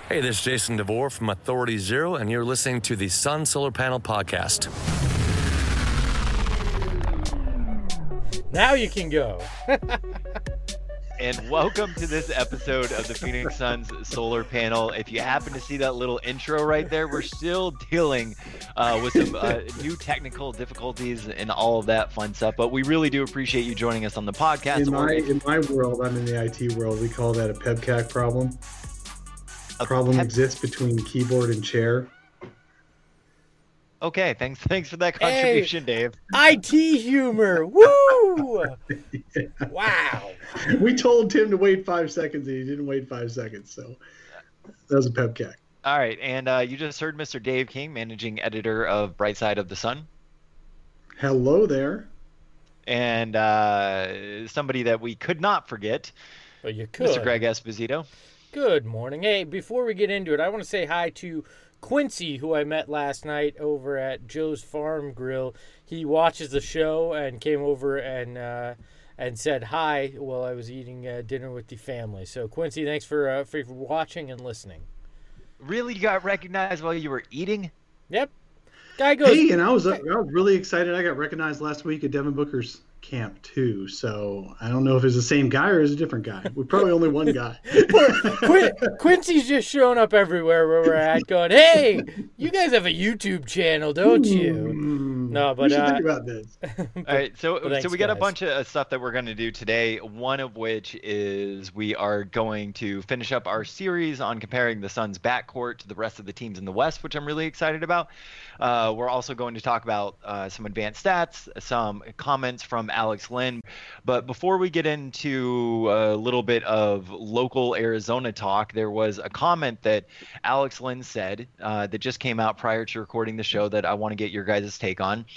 Hey, this is Jason DeVore from Authority Zero, and you're listening to the Sun Solar Panel Podcast. Now you can go. And welcome to this episode of the Phoenix Suns Solar Panel. If you happen to see that little intro right there, we're still dealing with some new technical difficulties and all of that fun stuff. But we really do appreciate you joining us on the podcast. In my world, I'm in the IT world, we call that a PEBCAC problem. Problem exists between keyboard and chair. Okay, thanks for that contribution, Dave. IT humor, woo! Yeah. Wow. We told Tim to wait 5 seconds, and he didn't wait 5 seconds, so that was a PEBCAC. All right, and you just heard Mr. Dave King, managing editor of Bright Side of the Sun. Hello there. And somebody that we could not forget, Well, you could. Mr. Greg Esposito. Good morning. Hey, before we get into it, I want to say hi to Quincy, who I met last night over at Joe's Farm Grill. He watches the show and came over and said hi while I was eating dinner with the family. So, Quincy, thanks for watching and listening. Really, you got recognized while you were eating? Yep. Guy goes. Hey, and I was really excited. I got recognized last week at Devin Booker's camp too. So I don't know if it's the same guy or it's a different guy. We're probably only one guy. Quincy's just showing up everywhere where we're at, going, "Hey, you guys have a YouTube channel, don't you?" No, but we should think about this. All right, so thanks, we got a guys. bunch of stuff that we're going to do today. One of which is we are going to finish up our series on comparing the Suns' backcourt to the rest of the teams in the West, which I'm really excited about. We're also going to talk about some advanced stats, some comments from Alex Len. But before we get into a little bit of local Arizona talk, there was a comment that Alex Len said that just came out prior to recording the show that I want to get your guys' take on.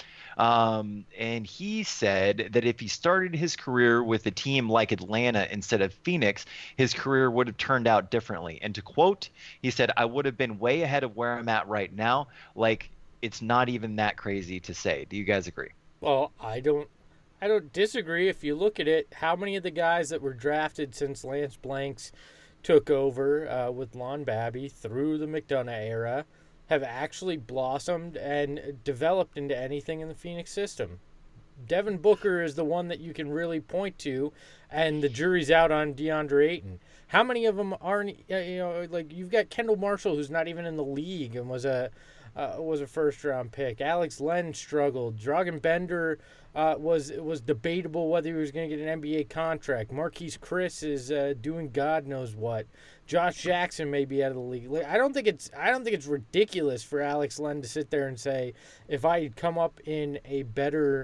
And he said that if he started his career with a team like Atlanta instead of Phoenix, his career would have turned out differently. And to quote, he said, "I would have been way ahead of where I'm at right now. Like, it's not even that crazy to say." Do you guys agree? Well, I don't disagree. If you look at it, how many of the guys that were drafted since Lance Blanks took over with Lon Babby through the McDonough era have actually blossomed and developed into anything in the Phoenix system? Devin Booker is the one that you can really point to, and the jury's out on DeAndre Ayton. How many of them aren't, like you've got Kendall Marshall, who's not even in the league and was a first-round pick. Alex Len struggled. Dragan Bender was debatable whether he was going to get an NBA contract. Marquise Chris is doing God knows what. Josh Jackson may be out of the league. I don't think it's ridiculous for Alex Len to sit there and say, if I had come up in a better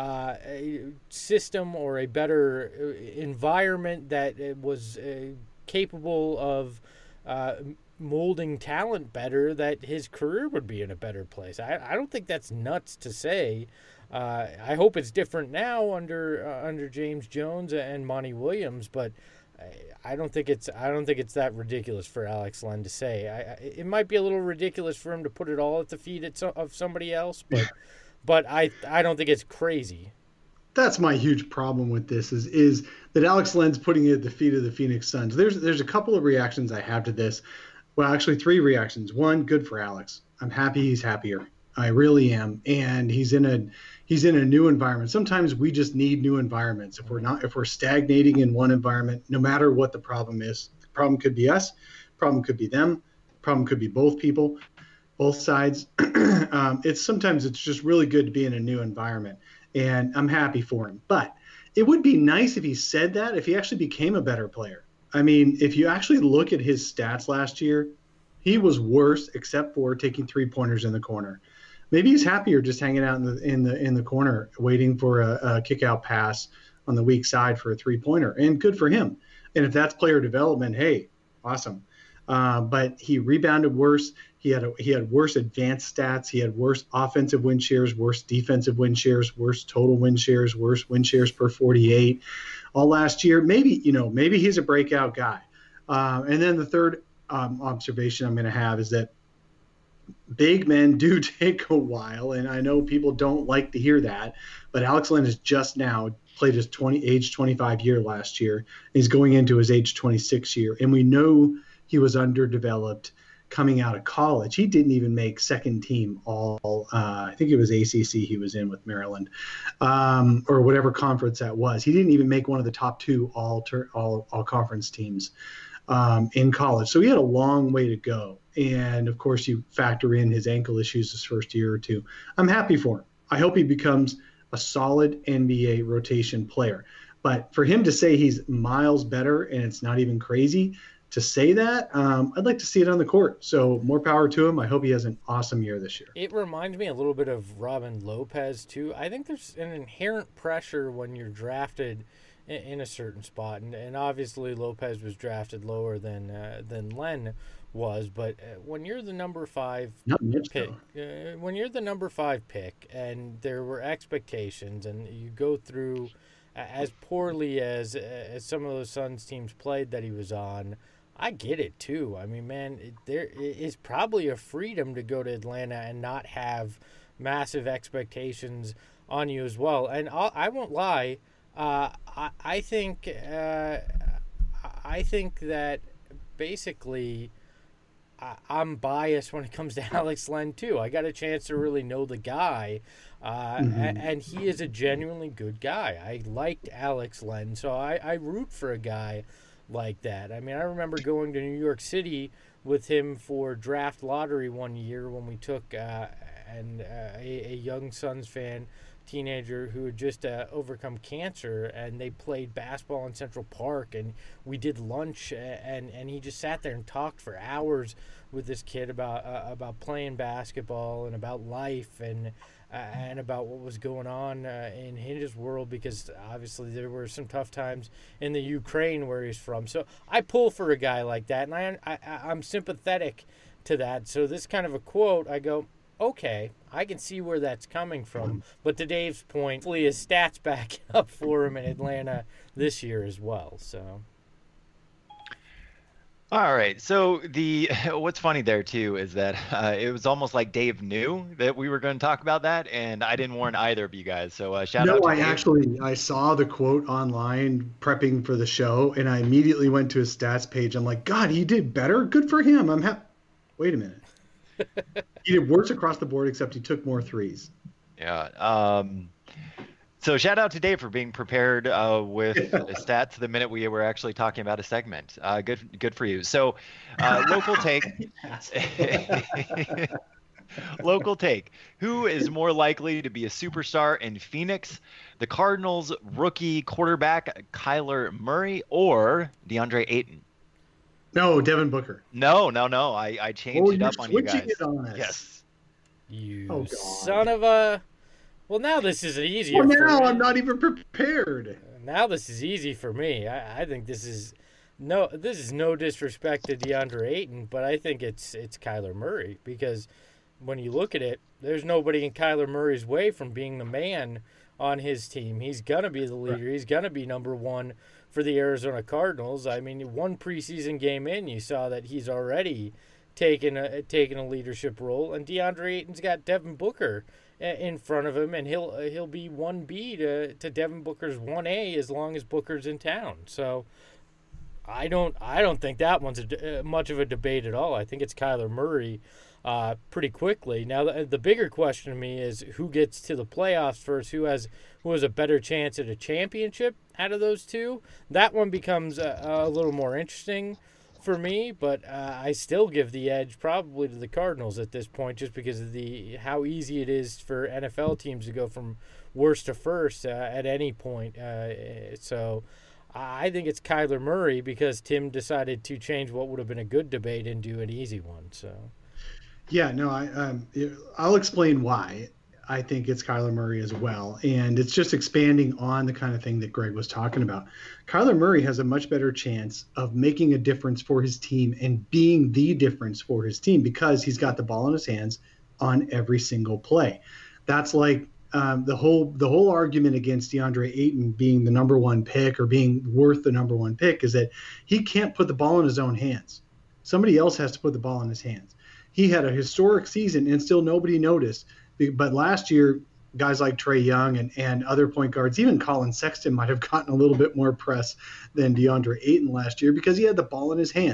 system or a better environment that was capable of molding talent better, that his career would be in a better place. I don't think that's nuts to say. I hope it's different now under James Jones and Monty Williams, but I don't think it's that ridiculous for Alex Len to say. It might be a little ridiculous for him to put it all at the feet of somebody else, but I don't think it's crazy. That's my huge problem with this is that Alex Len's putting it at the feet of the Phoenix Suns. There's a couple of reactions I have to this. Well, actually 3 reactions. One, good for Alex. I'm happy he's happier. I really am. And he's in a new environment. Sometimes we just need new environments. If we're stagnating in one environment, no matter what the problem is, the problem could be us, problem could be them, problem could be both people, both sides. Sometimes it's just really good to be in a new environment. And I'm happy for him. But it would be nice if he said that, if he actually became a better player. I mean, if you actually look at his stats last year, he was worse except for taking 3-pointers in the corner. Maybe he's happier just hanging out in the corner, waiting for a kick-out pass on the weak side for a 3-pointer. And good for him. And if that's player development, hey, awesome. But he rebounded worse. He had worse advanced stats. He had worse offensive win shares, worse defensive win shares, worse total win shares, worse win shares per 48. All last year, maybe he's a breakout guy. And then the third observation I'm going to have is that big men do take a while, and I know people don't like to hear that, but Alex Len has just now played his age 25 year last year. He's going into his age 26 year, and we know he was underdeveloped coming out of college. He didn't even make second team all, I think it was ACC he was in with Maryland, or whatever conference that was. He didn't even make one of the top 2 all conference teams in college. So he had a long way to go. And of course, you factor in his ankle issues his first year or two. I'm happy for him. I hope he becomes a solid NBA rotation player. But for him to say he's miles better and it's not even crazy to say that, I'd like to see it on the court. So more power to him. I hope he has an awesome year this year. It reminds me a little bit of Robin Lopez, too. I think there's an inherent pressure when you're drafted in a certain spot. And obviously Lopez was drafted lower than Len was. But when you're the number 5 pick, when you're the number 5 pick and there were expectations and you go through as poorly as some of those Suns teams played that he was on, I get it too. I mean, man, there is probably a freedom to go to Atlanta and not have massive expectations on you as well. And I won't lie, I think that basically I'm biased when it comes to Alex Len too. I got a chance to really know the guy, and he is a genuinely good guy. I liked Alex Len, so I root for a guy like that. I mean, I remember going to New York City with him for draft lottery one year when we took a young Suns fan, teenager who had just overcome cancer, and they played basketball in Central Park, and we did lunch, and he just sat there and talked for hours with this kid about playing basketball and about life and about what was going on in his world, because obviously there were some tough times in the Ukraine where he's from. So I pull for a guy like that, and I'm sympathetic to that. So this kind of a quote, I go, okay, I can see where that's coming from. But to Dave's point, hopefully his stats back up for him in Atlanta this year as well. So. All right. So what's funny there too is that it was almost like Dave knew that we were going to talk about that, and I didn't warn either of you guys. So shout out to Dave. I saw the quote online prepping for the show, and I immediately went to his stats page. I'm like, God, he did better. Good for him. Wait a minute. He did worse across the board, except he took more threes. Yeah. So shout out to Dave for being prepared with stats the minute we were actually talking about a segment. Good for you. So local take. Local take. Who is more likely to be a superstar in Phoenix? The Cardinals rookie quarterback Kyler Murray or DeAndre Ayton? No, Devin Booker. No. I changed it up on you guys. It on us. Yes. You son of a... Well, now this is easier. Well, now I'm not even prepared. Now this is easy for me. I think this is no disrespect to DeAndre Ayton, but I think it's Kyler Murray, because when you look at it, there's nobody in Kyler Murray's way from being the man on his team. He's gonna be the leader. Right. He's gonna be number one for the Arizona Cardinals. I mean, one preseason game in, you saw that he's already taken a leadership role, and DeAndre Ayton's got Devin Booker in front of him, and he'll be 1B to Devin Booker's 1A as long as Booker's in town. So I don't think that one's much of a debate at all. I think it's Kyler Murray pretty quickly. Now the bigger question to me is who gets to the playoffs first, who has a better chance at a championship out of those two. That one becomes a little more interesting for me, but I still give the edge probably to the Cardinals at this point, just because of how easy it is for NFL teams to go from worst to first at any point. So I think it's Kyler Murray, because Tim decided to change what would have been a good debate and do an easy one. So yeah, no, I'll explain why I think it's Kyler Murray as well. And it's just expanding on the kind of thing that Greg was talking about. Kyler Murray has a much better chance of making a difference for his team and being the difference for his team, because he's got the ball in his hands on every single play. That's like the whole argument against DeAndre Ayton being the number one pick or being worth the number one pick is that he can't put the ball in his own hands. Somebody else has to put the ball in his hands. He had a historic season and still nobody noticed. But last year, guys like Trae Young and other point guards, even Colin Sexton might have gotten a little bit more press than DeAndre Ayton last year, because he had the ball in his hands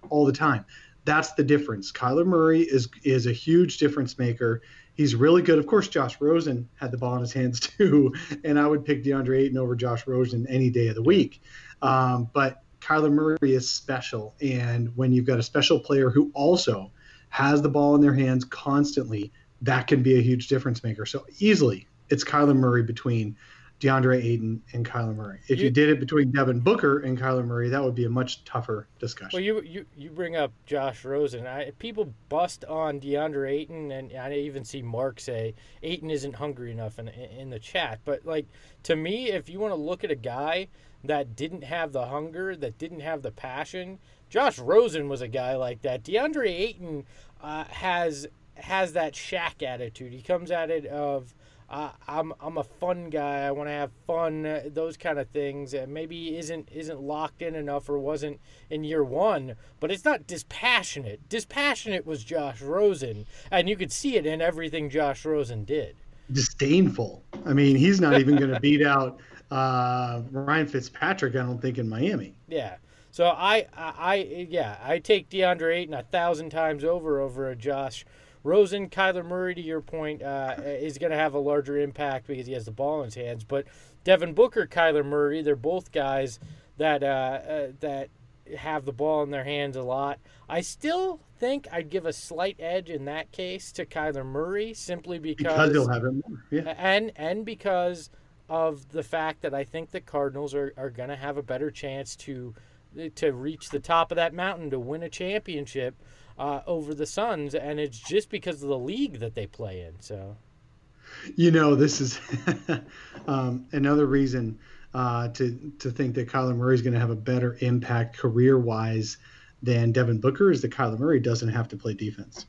all the time. That's the difference. Kyler Murray is a huge difference maker. He's really good. Of course, Josh Rosen had the ball in his hands too, and I would pick DeAndre Ayton over Josh Rosen any day of the week. But Kyler Murray is special, and when you've got a special player who also has the ball in their hands constantly, that can be a huge difference maker. So easily, it's Kyler Murray between DeAndre Ayton and Kyler Murray. If you did it between Devin Booker and Kyler Murray, that would be a much tougher discussion. Well, you bring up Josh Rosen. People bust on DeAndre Ayton, and I even see Mark say Ayton isn't hungry enough in the chat. But, like, to me, if you want to look at a guy that didn't have the hunger, that didn't have the passion, Josh Rosen was a guy like that. DeAndre Ayton has that Shaq attitude. He comes at it of, I'm a fun guy. I want to have fun. Those kind of things. Maybe isn't locked in enough or wasn't in year one. But it's not dispassionate. Dispassionate was Josh Rosen, and you could see it in everything Josh Rosen did. Disdainful. I mean, he's not even going to beat out Ryan Fitzpatrick, I don't think, in Miami. Yeah. So I take DeAndre Ayton 1,000 times over a Josh Rosen. Kyler Murray, to your point, is going to have a larger impact because he has the ball in his hands. But Devin Booker, Kyler Murray, they're both guys that have the ball in their hands a lot. I still think I'd give a slight edge in that case to Kyler Murray simply because he'll have it more. Yeah. And because of the fact that I think the Cardinals are going to have a better chance to reach the top of that mountain to win a championship over the Suns, and it's just because of the league that they play in. So, this is another reason to think that Kyler Murray is going to have a better impact career-wise than Devin Booker is that Kyler Murray doesn't have to play defense.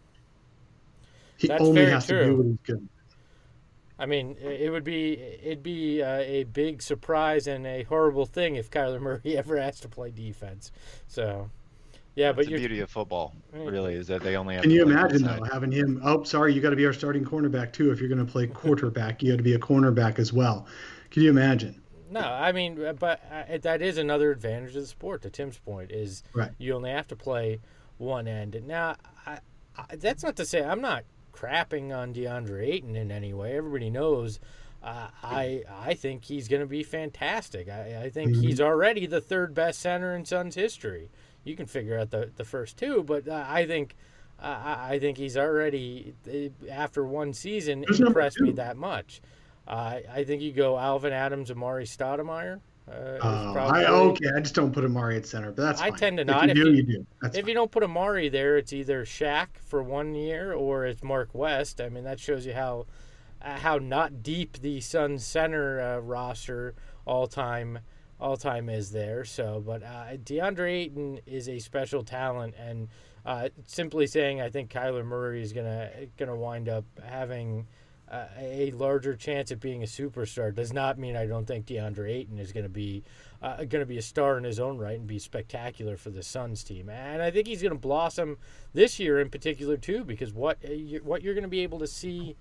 He only has to do what he's good. I mean, it'd be a big surprise and a horrible thing if Kyler Murray ever has to play defense. So, yeah, but the beauty of football really is that they only have. Can you imagine though having him? Oh, sorry, you got to be our starting cornerback too. If you're going to play quarterback, you got to be a cornerback as well. Can you imagine? No, I mean, but that is another advantage of the sport. To Tim's point, is you only have to play one end. Now, that's not to say I'm not crapping on DeAndre Ayton in any way. Everybody knows I think he's going to be fantastic. I think he's already the third best center in Suns history. You can figure out the first two, but I think he's already, after one season, impressed me that much. I think you go Alvin Adams, Amari Stoudemire. I just don't put Amari at center, but that's fine. I tend to not. If you do. If you don't put Amari there, it's either Shaq for 1 year or it's Mark West. I mean, that shows you how not deep the Suns center roster all time is there. So, but DeAndre Ayton is a special talent, and simply saying I think Kyler Murray is gonna wind up having a larger chance at being a superstar does not mean I don't think DeAndre Ayton is going to be a star in his own right and be spectacular for the Suns team. And I think he's going to blossom this year in particular too, because what you're going to be able to see,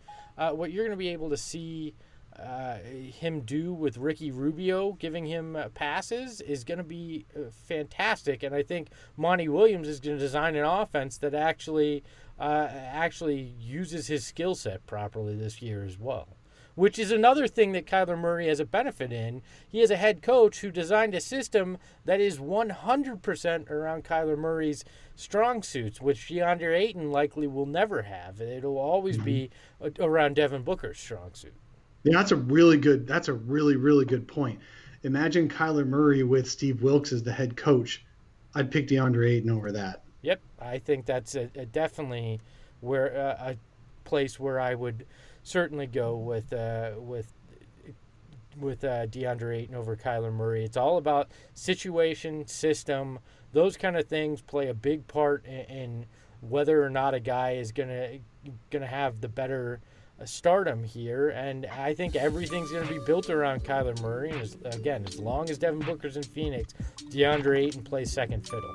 him do with Ricky Rubio giving him passes is going to be fantastic. And I think Monty Williams is going to design an offense that actually uses his skill set properly this year as well, which is another thing that Kyler Murray has a benefit in. He has a head coach who designed a system that is 100% around Kyler Murray's strong suits, which DeAndre Ayton likely will never have. It'll always be around Devin Booker's strong suit. Yeah, that's a really, really good point. Imagine Kyler Murray with Steve Wilks as the head coach. I'd pick DeAndre Ayton over that. Yep, I think that's definitely where a place where I would certainly go with DeAndre Ayton over Kyler Murray. It's all about situation, system, those kind of things play a big part in whether or not a guy is gonna have the better stardom here. And I think everything's going to be built around Kyler Murray. And as long as Devin Booker's in Phoenix, DeAndre Ayton plays second fiddle.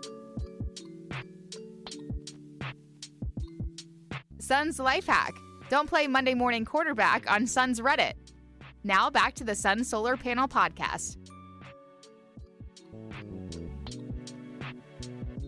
Suns Life Hack. Don't play Monday morning quarterback on Suns Reddit. Now back to the Sun Solar Panel Podcast.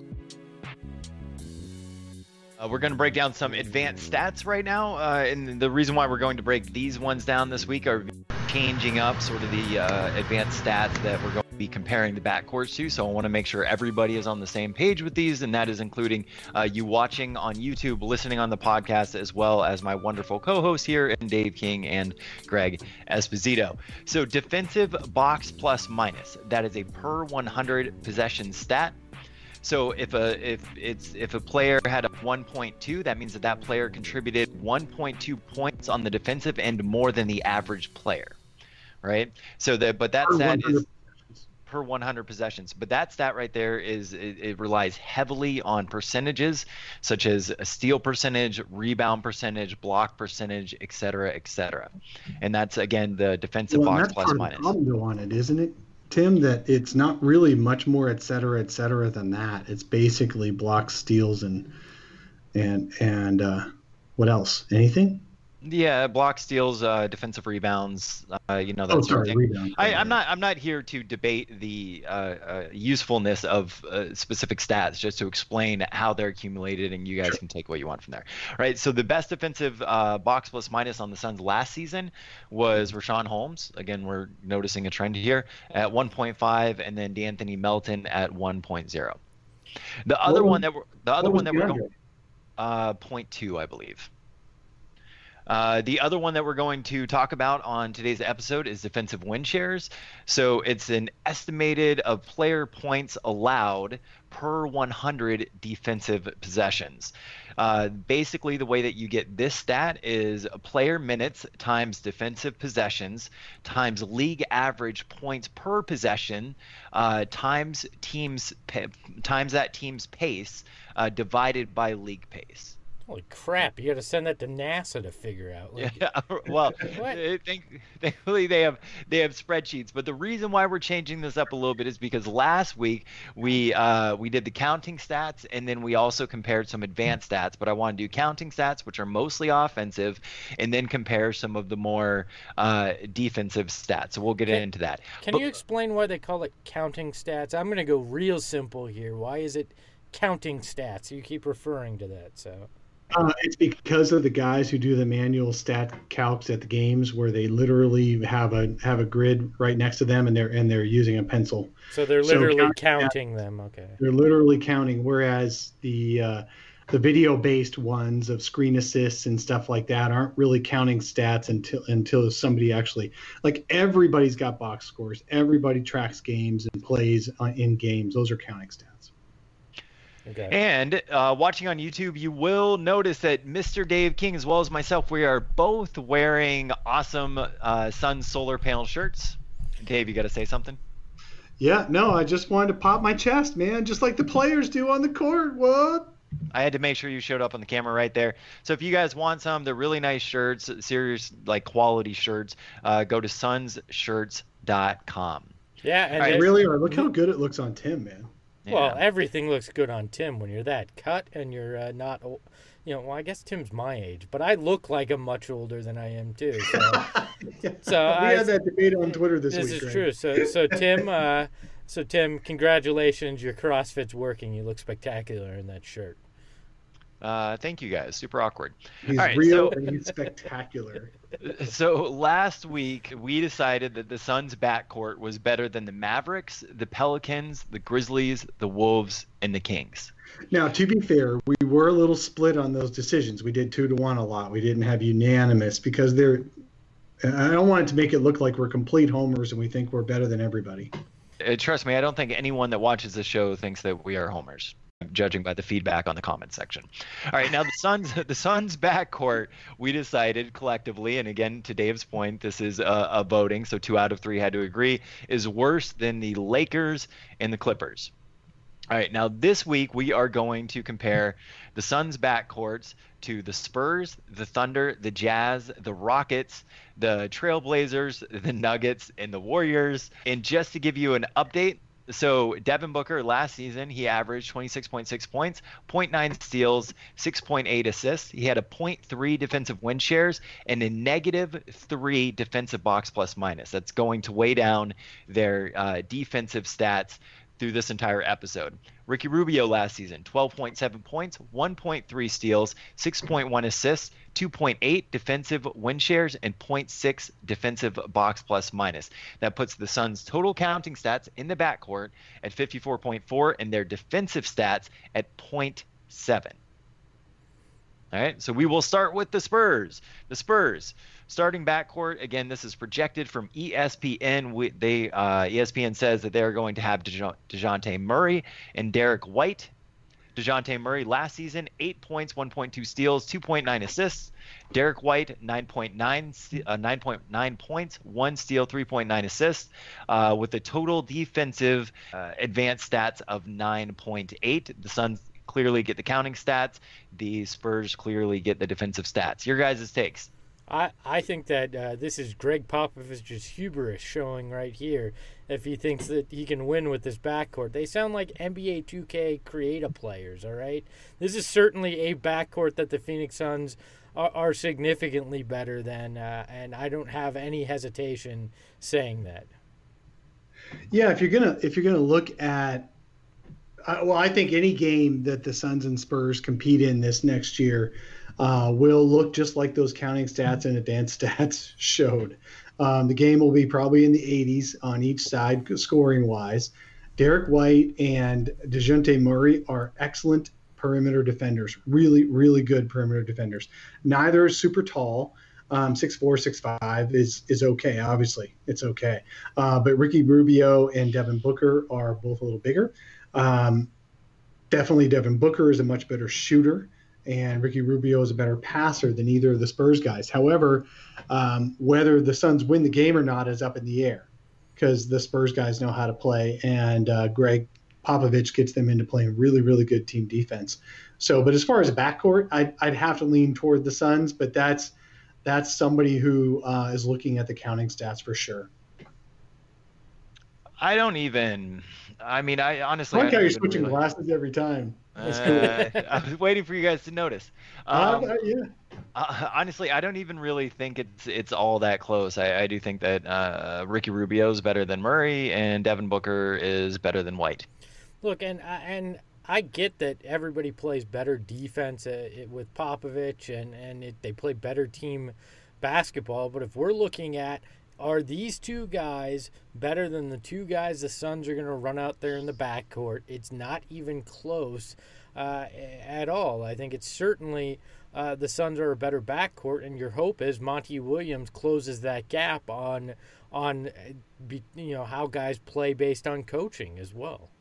We're going to break down some advanced stats right now, and the reason why we're going to break these ones down this week are changing up sort of the advanced stats that we're going to be comparing the backcourts to. So I want to make sure everybody is on the same page with these, and that is including you watching on YouTube, listening on the podcast, as well as my wonderful co-hosts here, and Dave King and Greg Esposito. So defensive box plus minus, that is a per 100 possession stat. So if a player had a 1.2, that means that player contributed 1.2 points on the defensive end more than the average player, right? So that stat is per 100 possessions. But that stat right there it relies heavily on percentages such as a steal percentage, rebound percentage, block percentage, et cetera, et cetera. And that's again the defensive box plus minus. That's part of the problem on it, isn't it, Tim, that it's not really much more et cetera than that. It's basically blocks, steals, and what else? Anything? Yeah, block, steals, defensive rebounds, that sort of thing. Rebound. I'm not here to debate the usefulness of specific stats, just to explain how they're accumulated, and you guys can take what you want from there. Right. So the best defensive box plus minus on the Suns last season was Richaun Holmes. Again, we're noticing a trend here at 1.5, and then D'Anthony Melton at 1.0. The other one that we're going 0.2, I believe. The other one that we're going to talk about on today's episode is defensive win shares. So it's an estimated of player points allowed per 100 defensive possessions. Basically, the way that you get this stat is player minutes times defensive possessions times league average points per possession times that team's pace divided by league pace. Holy crap! You got to send that to NASA to figure out. Yeah, well, thankfully they have spreadsheets. But the reason why we're changing this up a little bit is because last week we did the counting stats, and then we also compared some advanced stats. But I want to do counting stats, which are mostly offensive, and then compare some of the more defensive stats. So we'll get into that. Can you explain why they call it counting stats? I'm going to go real simple here. Why is it counting stats? You keep referring to that, so. It's because of the guys who do the manual stat calcs at the games, where they literally have a grid right next to them, and they're using a pencil. So they're literally counting them. Okay. They're literally counting, whereas the video-based ones of screen assists and stuff like that aren't really counting stats until somebody actually, like, everybody's got box scores. Everybody tracks games and plays in games. Those are counting stats. Okay. And watching on YouTube, you will notice that Mr. Dave King, as well as myself, we are both wearing awesome Sun solar panel shirts. Dave, you got to say something? Yeah, no, I just wanted to pop my chest, man, just like the players do on the court. What? I had to make sure you showed up on the camera right there. So if you guys want some, they're really nice shirts, serious, like, quality shirts. Go to sunsshirts.com. Yeah, and they really are. Look how good it looks on Tim, man. Yeah. Well, everything looks good on Tim when you're that cut and you're not, well, I guess Tim's my age, but I look like I'm much older than I am too. So, we had that debate on Twitter this week. This is true. So Tim, congratulations, your CrossFit's working. You look spectacular in that shirt. Thank you guys. Super awkward. He's all right, real and he's spectacular. So last week we decided that the Suns' backcourt was better than the Mavericks, the Pelicans, the Grizzlies, the Wolves, and the Kings. Now, to be fair, we were a little split on those decisions. We did 2-1 a lot. We didn't have unanimous because I don't want it to make it look like we're complete homers and we think we're better than everybody. Trust me, I don't think anyone that watches the show thinks that we are homers, judging by the feedback on the comment section. All right, now the Suns backcourt, we decided collectively, and again, to Dave's point, this is a voting, so 2 out of 3 had to agree, is worse than the Lakers and the Clippers. All right, now this week we are going to compare the Suns backcourts to the Spurs, the Thunder, the Jazz, the Rockets, the Trailblazers, the Nuggets, and the Warriors. And just to give you an update, so Devin Booker last season, he averaged 26.6 points, 0.9 steals, 6.8 assists. He had a 0.3 defensive win shares and a -3 defensive box plus minus. That's going to weigh down their defensive stats through this entire episode. Ricky Rubio last season, 12.7 points, 1.3 steals, 6.1 assists, 2.8 defensive win shares, and 0.6 defensive box plus minus. That puts the Suns' total counting stats in the backcourt at 54.4 and their defensive stats at 0.7. All right, so we will start with the Spurs. The Spurs starting backcourt. Again, this is projected from ESPN. ESPN says that they're going to have DeJounte Murray and Derek White. DeJounte Murray last season, 8 points, 1.2 steals, 2.9 assists. Derek White, 9.9 points, 1 steal, 3.9 assists, with a total defensive advanced stats of 9.8. The Suns clearly get the counting stats. The Spurs clearly get the defensive stats. Your guys' takes? I think that this is Greg Popovich's hubris showing right here. If he thinks that he can win with this backcourt, they sound like NBA 2K creative players. All right, this is certainly a backcourt that the Phoenix Suns are significantly better than, and I don't have any hesitation saying that. Yeah, if you're gonna look at, I think any game that the Suns and Spurs compete in this next year will look just like those counting stats and advanced stats showed. The game will be probably in the 80s on each side, scoring-wise. Derek White and DeJounte Murray are excellent perimeter defenders, really, really good perimeter defenders. Neither is super tall. 6'4", 6'5" is okay, obviously. It's okay. But Ricky Rubio and Devin Booker are both a little bigger. Definitely Devin Booker is a much better shooter, and Ricky Rubio is a better passer than either of the Spurs guys. However, whether the Suns win the game or not is up in the air because the Spurs guys know how to play, and Greg Popovich gets them into playing really, really good team defense. So, but as far as a backcourt, I'd have to lean toward the Suns, but that's somebody who is looking at the counting stats for sure. I honestly. I like how you're switching glasses every time. That's cool. I was waiting for you guys to notice. Yeah. Honestly, I don't even really think it's all that close. I do think that Ricky Rubio is better than Murray, and Devin Booker is better than White. Look, and I get that everybody plays better defense with Popovich, and they play better team basketball. But if we're looking at, are these two guys better than the two guys the Suns are going to run out there in the backcourt? It's not even close at all. I think it's certainly the Suns are a better backcourt, and your hope is Monty Williams closes that gap on how guys play based on coaching as well.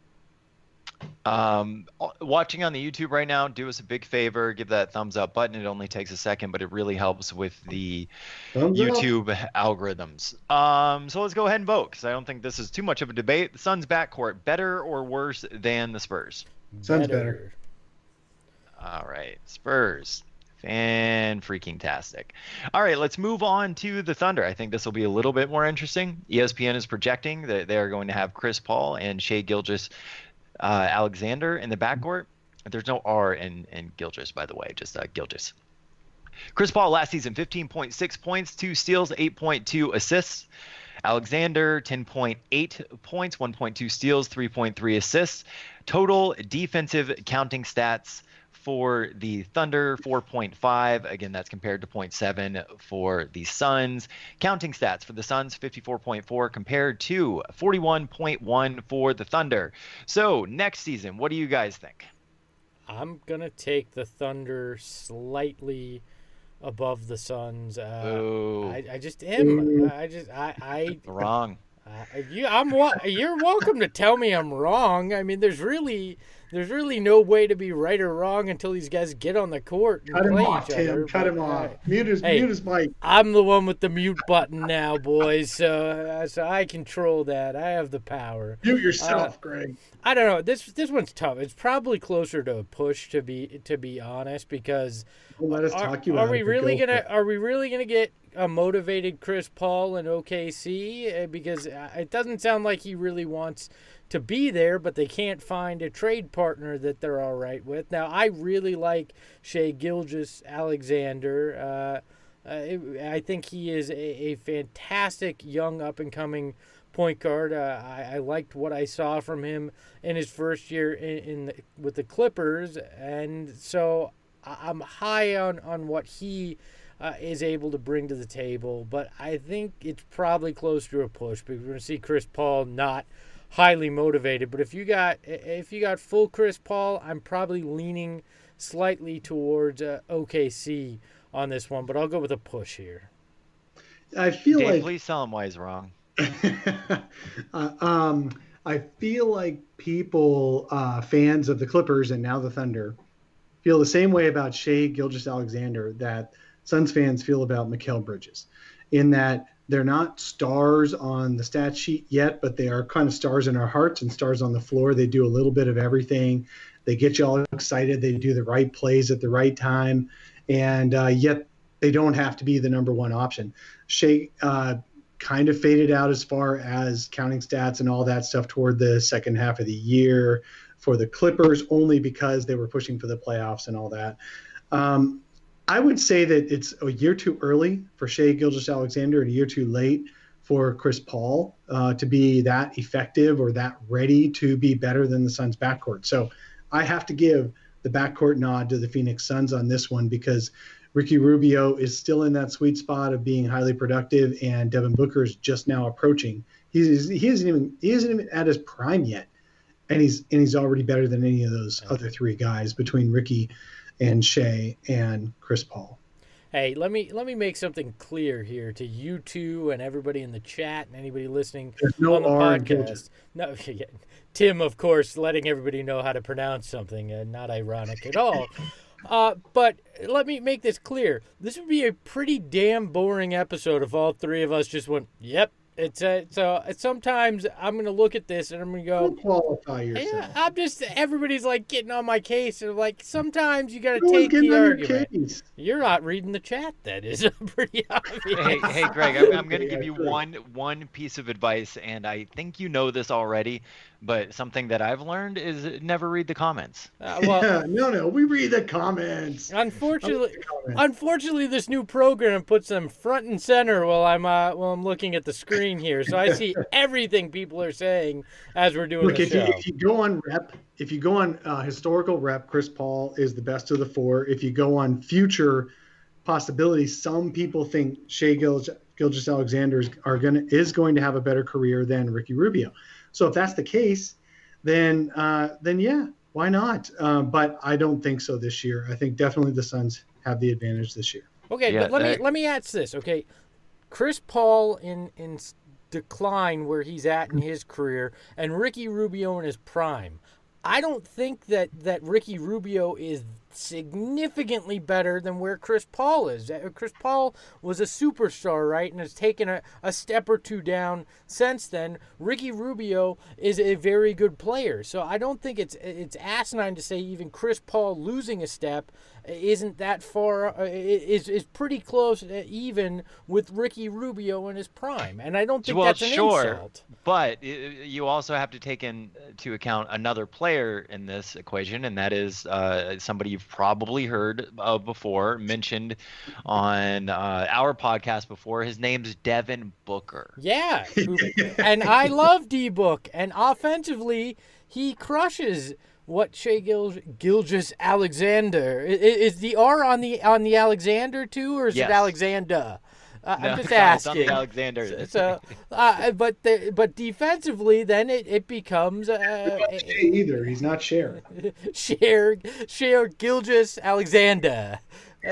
Watching on the YouTube right now, do us a big favor, give that thumbs up button. It only takes a second, but it really helps with the YouTube algorithms. So let's go ahead and vote, because I don't think this is too much of a debate. The Suns backcourt, better or worse than the Spurs? Suns better. All right, Spurs. Fan-freaking-tastic. All right, let's move on to the Thunder. I think this will be a little bit more interesting. ESPN is projecting that they are going to have Chris Paul and Shai Gilgeous Alexander in the backcourt. There's no R in Gilgeous, by the way, just Gilgeous. Chris Paul last season, 15.6 points, 2 steals, 8.2 assists. Alexander, 10.8 points, 1.2 steals, 3.3 assists. Total defensive counting stats for the Thunder, 4.5. Again, that's compared to 0.7 for the Suns. Counting stats for the Suns, 54.4 compared to 41.1 for the Thunder. So next season, what do you guys think? I'm going to take the Thunder slightly above the Suns. I just am. Wrong. You're welcome to tell me I'm wrong. I mean, there's really no way to be right or wrong until these guys get on the court and play each other. Cut him off. Mute his mic. I'm the one with the mute button now, boys. So I control that. I have the power. Mute yourself, Greg. I don't know. This one's tough. It's probably closer to a push, to be honest, because let us talk you out. Are we really gonna get a motivated Chris Paul in OKC? Because it doesn't sound like he really wants to be there, but they can't find a trade partner that they're all right with. Now, I really like Shai Gilgeous Alexander. I think he is a fantastic young up-and-coming point guard. I liked what I saw from him in his first year with the Clippers, and so I'm high on what he is able to bring to the table. But I think it's probably close to a push because we're going to see Chris Paul not highly motivated. But if you got full Chris Paul, I'm probably leaning slightly towards OKC on this one. But I'll go with a push here. I feel Dave, like please tell him why he's wrong. I feel like people, fans of the Clippers and now the Thunder, feel the same way about Shai Gilgeous-Alexander that Suns fans feel about Mikal Bridges, in that they're not stars on the stat sheet yet, but they are kind of stars in our hearts and stars on the floor. They do a little bit of everything. They get you all excited. They do the right plays at the right time, and yet they don't have to be the number one option. Shai kind of faded out as far as counting stats and all that stuff toward the second half of the year for the Clippers, only because they were pushing for the playoffs and all that. I would say that it's a year too early for Shai Gilgeous-Alexander and a year too late for Chris Paul to be that effective or that ready to be better than the Suns backcourt. So I have to give the backcourt nod to the Phoenix Suns on this one because Ricky Rubio is still in that sweet spot of being highly productive, and Devin Booker is just now approaching. He isn't even at his prime yet, and he's already better than any of those other three guys between Ricky and Shai and Chris Paul. Hey, let me make something clear here to you two and everybody in the chat and anybody listening on the podcast. No, yeah, Tim, of course, letting everybody know how to pronounce something, not ironic at all. But let me make this clear. This would be a pretty damn boring episode if all three of us just went, yep. So sometimes I'm going to look at this and I'm going to go, don't qualify yourself. Yeah, everybody's like getting on my case. And like, sometimes you got to take the argument. You're not reading the chat. That is pretty obvious. Hey, Greg, I'm going to give you one piece of advice, and I think you know this already, but something that I've learned is never read the comments. No, we read the comments. Unfortunately, this new program puts them front and center while I'm looking at the screen here, so I see everything people are saying as we're doing the show. If you go on historical rep, Chris Paul is the best of the four. If you go on future possibilities, some people think Shai Gilgeous-Alexander is going to have a better career than Ricky Rubio. So if that's the case, then yeah, why not? But I don't think so this year. I think definitely the Suns have the advantage this year. Okay, yeah, but let me ask this. Okay, Chris Paul in decline where he's at in his career, and Ricky Rubio in his prime. I don't think that Ricky Rubio is significantly better than where Chris Paul is. Chris Paul was a superstar, right, and has taken a step or two down since then. Ricky Rubio is a very good player, so I don't think it's asinine to say even Chris Paul losing a step isn't that far, is pretty close even with Ricky Rubio in his prime, and I don't think that's an insult. But you also have to take into account another player in this equation, and that is somebody you've probably heard of before, mentioned on our podcast before. His name's Devin Booker. Yeah, and I love D-Book, and offensively, he crushes what Shai Gilgeous-Alexander. Is the R on the Alexander too, or is it Alexander? I'm just asking. It's on the Alexander. So, but defensively, then it becomes either. He's not Cher. Shai Gilgeous-Alexander.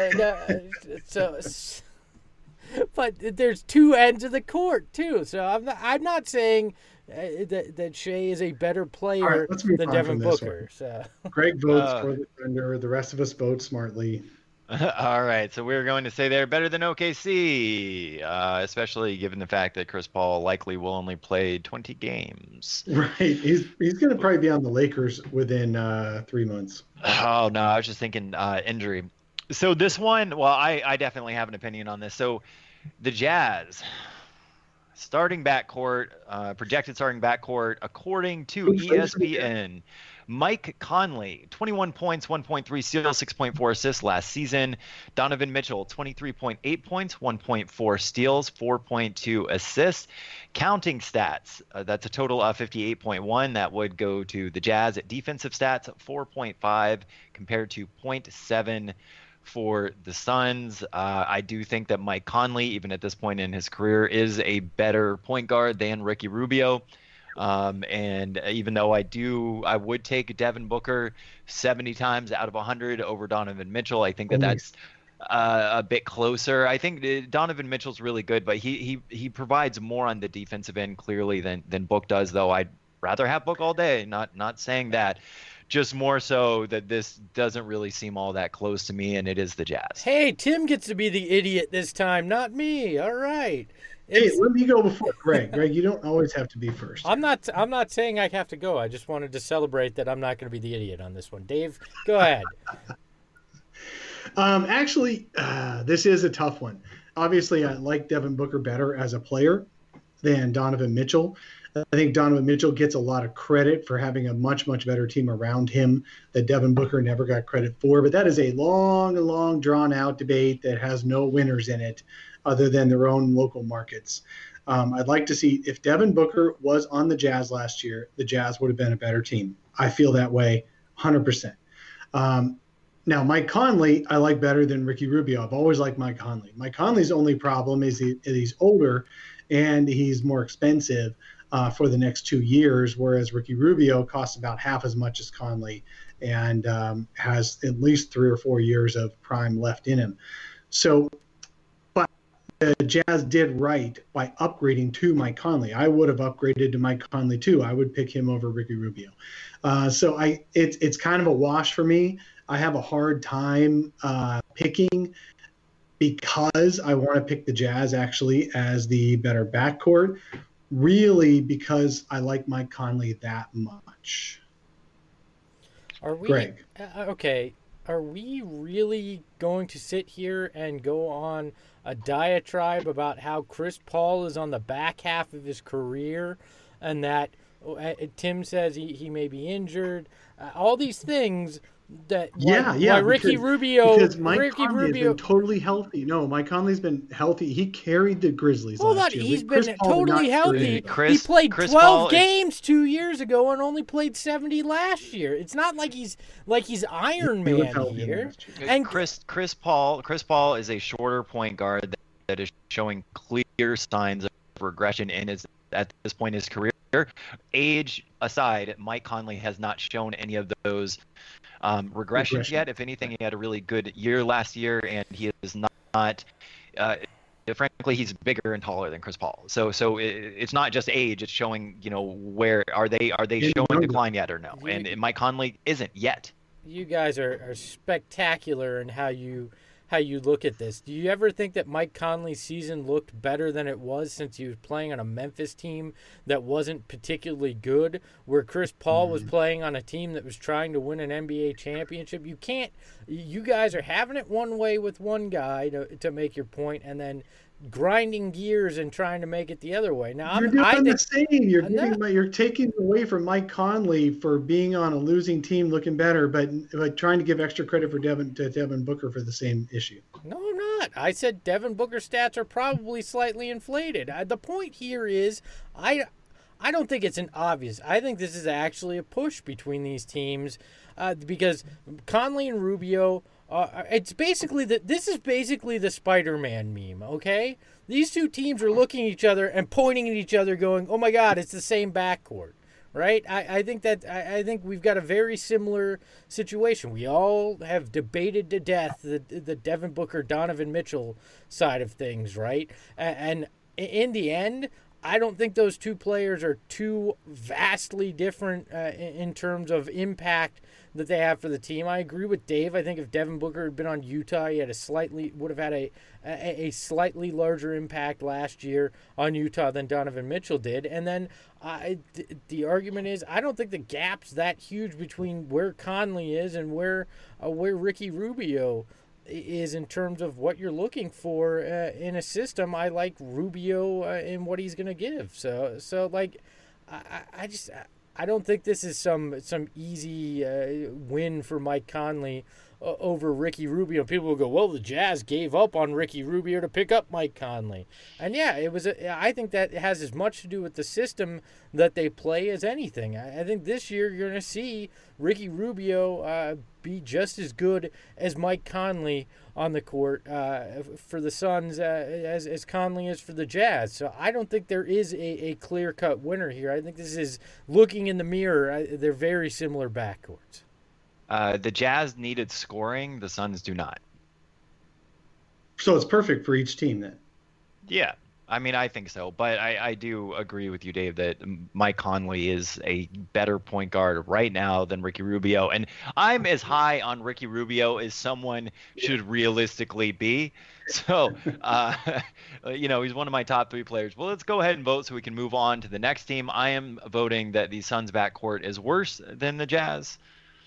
But there's two ends of the court too. So I'm not saying that Shai is a better player than Devin Booker. So Greg votes for the Thunder. The rest of us vote smartly. All right, so we're going to say they're better than OKC, especially given the fact that Chris Paul likely will only play 20 games. Right, he's going to probably be on the Lakers within 3 months. Oh, no, I was just thinking injury. So this one, well, I definitely have an opinion on this. So the Jazz, Starting backcourt, projected starting backcourt, according to Who plays for the ESPN, Mike Conley, 21 points, 1.3 steals, 6.4 assists last season. Donovan Mitchell, 23.8 points, 1.4 steals, 4.2 assists. Counting stats, that's a total of 58.1. That would go to the Jazz. At defensive stats, 4.5 compared to 0.7 for the Suns. I do think that Mike Conley, even at this point in his career, is a better point guard than Ricky Rubio. And even though I would take Devin Booker 70 times out of 100 over Donovan Mitchell, I think that's a bit closer. I think Donovan Mitchell's really good, but he provides more on the defensive end clearly than Book does, though I'd rather have Book all day. Not saying that. Just more so that this doesn't really seem all that close to me, and it is the Jazz. Hey, Tim gets to be the idiot this time, not me. All right. Hey, let me go before Greg. Greg, you don't always have to be first. I'm not saying I have to go. I just wanted to celebrate that I'm not going to be the idiot on this one. Dave, go ahead. Actually, this is a tough one. Obviously, I like Devin Booker better as a player than Donovan Mitchell. I think Donovan Mitchell gets a lot of credit for having a much, much better team around him that Devin Booker never got credit for. But that is a long, drawn-out debate that has no winners in it other than their own local markets. I'd like to see if Devin Booker was on the Jazz last year, the Jazz would have been a better team. I feel that way 100%. Now, Mike Conley, I like better than Ricky Rubio. I've always liked Mike Conley. Mike Conley's only problem is he's older and he's more expensive for the next 2 years, whereas Ricky Rubio costs about half as much as Conley and has at least 3 or 4 years of prime left in him. So, but the Jazz did right by upgrading to Mike Conley. I would have upgraded to Mike Conley too. I would pick him over Ricky Rubio. So it's kind of a wash for me. I have a hard time picking because I want to pick the Jazz actually as the better backcourt. Really, because I like Mike Conley that much. Are we Greg? Okay? Are we really going to sit here and go on a diatribe about how Chris Paul is on the back half of his career, and that Tim says he may be injured? All these things. Why Ricky Rubio? Because Mike Conley has been totally healthy. No, Mike Conley's been healthy. He carried the Grizzlies last year. He's been totally healthy. He played 12 games 2 years ago and only played 70 last year. It's not like he's Iron Man here. And Chris Paul is a shorter point guard that is showing clear signs of regression at this point in his career. Age aside, Mike Conley has not shown any of those regressions yet. If anything, he had a really good year last year, and he is not. Frankly, he's bigger and taller than Chris Paul. So it's not just age; it's showing where are they showing decline yet or no? And Mike Conley isn't yet. You guys are spectacular in how you look at this. Do you ever think that Mike Conley's season looked better than it was since he was playing on a Memphis team that wasn't particularly good, where Chris Paul was playing on a team that was trying to win an NBA championship? You guys are having it one way with one guy to make your point, and then grinding gears and trying to make it the other way. Now, you're doing the same. You're taking away from Mike Conley for being on a losing team looking better, but trying to give extra credit for Devin Booker for the same issue. No, I'm not. I said Devin Booker's stats are probably slightly inflated. The point here is I don't think it's an obvious. I think this is actually a push between these teams because Conley and Rubio. This is basically the Spider-Man meme, okay? These two teams are looking at each other and pointing at each other going, oh my God, it's the same backcourt, right? I think we've got a very similar situation. We all have debated to death the Devin Booker, Donovan Mitchell side of things, right? And in the end, I don't think those two players are too vastly different in terms of impact that they have for the team. I agree with Dave. I think if Devin Booker had been on Utah, he would have had a slightly larger impact last year on Utah than Donovan Mitchell did. And then the argument is I don't think the gap's that huge between where Conley is and where Ricky Rubio is in terms of what you're looking for in a system. I like Rubio in what he's going to give. So like, I don't think this is some easy win for Mike Conley over Ricky Rubio. People will go, well, the Jazz gave up on Ricky Rubio to pick up Mike Conley. And yeah, I think that has as much to do with the system that they play as anything. I think this year you're going to see Ricky Rubio be just as good as Mike Conley on the court for the Suns as Conley is for the Jazz. So I don't think there is a clear-cut winner here. I think this is looking in the mirror. They're very similar backcourts. The Jazz needed scoring. The Suns do not. So it's perfect for each team then. Yeah. I mean, I think so. But I do agree with you, Dave, that Mike Conley is a better point guard right now than Ricky Rubio. And I'm as high on Ricky Rubio as someone should realistically be. So, he's one of my top 3 players. Well, let's go ahead and vote so we can move on to the next team. I am voting that the Suns backcourt is worse than the Jazz.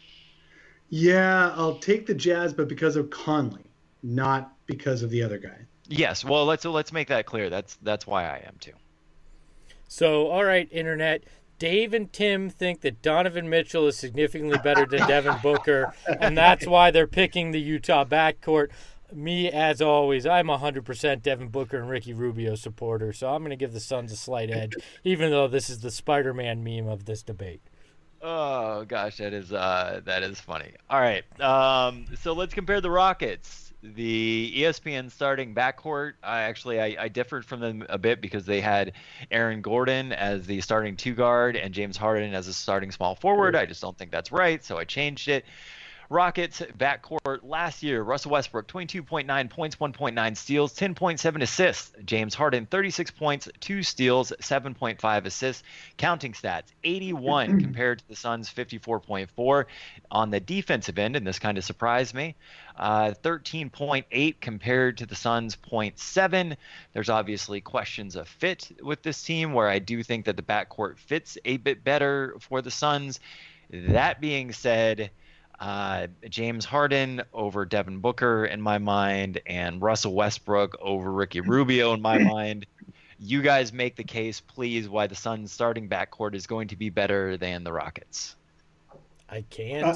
Yeah, I'll take the Jazz, but because of Conley, not because of the other guy. Yes, well, let's make that clear. That's why I am too. So, all right, Internet. Dave and Tim think that Donovan Mitchell is significantly better than Devin Booker, and that's why they're picking the Utah backcourt. Me, as always, I'm 100% Devin Booker and Ricky Rubio supporter, so I'm going to give the Suns a slight edge, even though this is the Spider-Man meme of this debate. Oh gosh, that is funny. All right, so let's compare the Rockets. The ESPN starting backcourt. I differed from them a bit because they had Aaron Gordon as the starting 2 guard and James Harden as a starting small forward. I just don't think that's right, so I changed it. Rockets backcourt last year, Russell Westbrook, 22.9 points, 1.9 steals, 10.7 assists. James Harden, 36 points, 2 steals, 7.5 assists. Counting stats, 81 compared to the Suns' 54.4. On the defensive end, and this kind of surprised me, 13.8 compared to the Suns' 0.7. There's obviously questions of fit with this team, where I do think that the backcourt fits a bit better for the Suns. That being said, James Harden over Devin Booker in my mind, and Russell Westbrook over Ricky Rubio in my mind. You guys make the case, please, why the Suns starting backcourt is going to be better than the Rockets. I can't.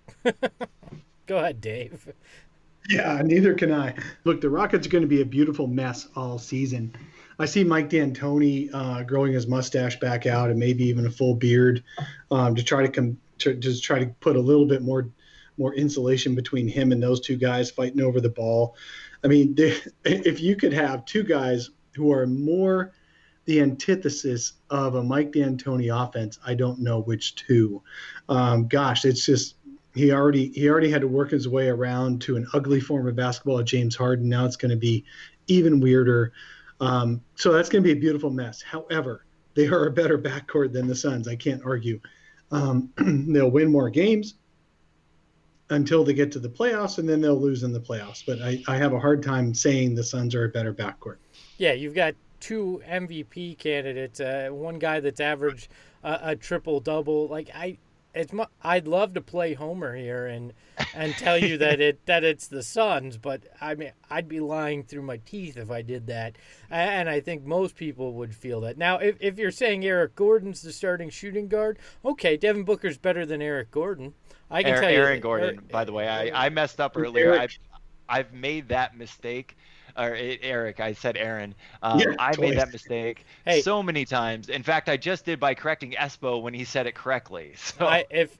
Go ahead, Dave. Yeah, neither can I. Look, the Rockets are going to be a beautiful mess all season. I see Mike D'Antoni growing his mustache back out and maybe even a full beard to try to put a little bit more insulation between him and those 2 guys fighting over the ball. I mean, if you could have 2 guys who are more the antithesis of a Mike D'Antoni offense, I don't know which 2. It's just he already had to work his way around to an ugly form of basketball at James Harden. Now it's going to be even weirder. So that's going to be a beautiful mess. However, they are a better backcourt than the Suns. I can't argue. They'll win more games until they get to the playoffs, and then they'll lose in the playoffs. But I have a hard time saying the Suns are a better backcourt. Yeah, you've got 2 MVP candidates, one guy that's averaged a triple-double. Like, I'd love to play Homer here and tell you that it's the Suns, but I mean, I'd be lying through my teeth if I did that, and I think most people would feel that. Now, if you're saying Eric Gordon's the starting shooting guard, okay, Devin Booker's better than Eric Gordon. I can tell you. Aaron Gordon, by the way, I messed up earlier. I've made that mistake. Or Eric, I said Aaron. I made that mistake so many times. In fact, I just did by correcting Espo when he said it correctly. So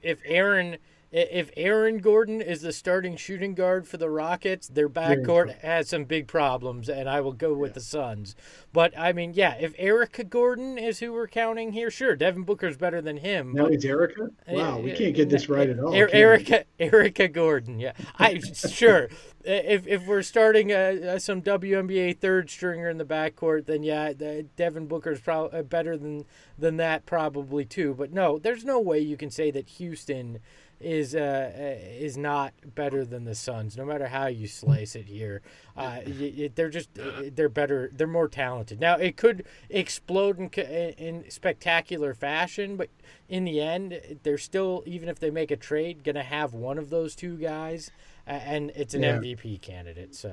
if Aaron Gordon is the starting shooting guard for the Rockets, their backcourt has some big problems, and I will go with the Suns. But, I mean, yeah, if Erica Gordon is who we're counting here, sure, Devin Booker's better than him. No, it's Erica? Wow, we can't get this right at all. Erica Gordon, yeah. Sure. If we're starting some WNBA third stringer in the backcourt, then yeah, Devin Booker's probably better than that probably too. But no, there's no way you can say that Houston is not better than the Suns, no matter how you slice it here. They're better. They're more talented. Now it could explode in spectacular fashion, but in the end, they're still, even if they make a trade, gonna have one of those two guys, and it's an MVP candidate. So.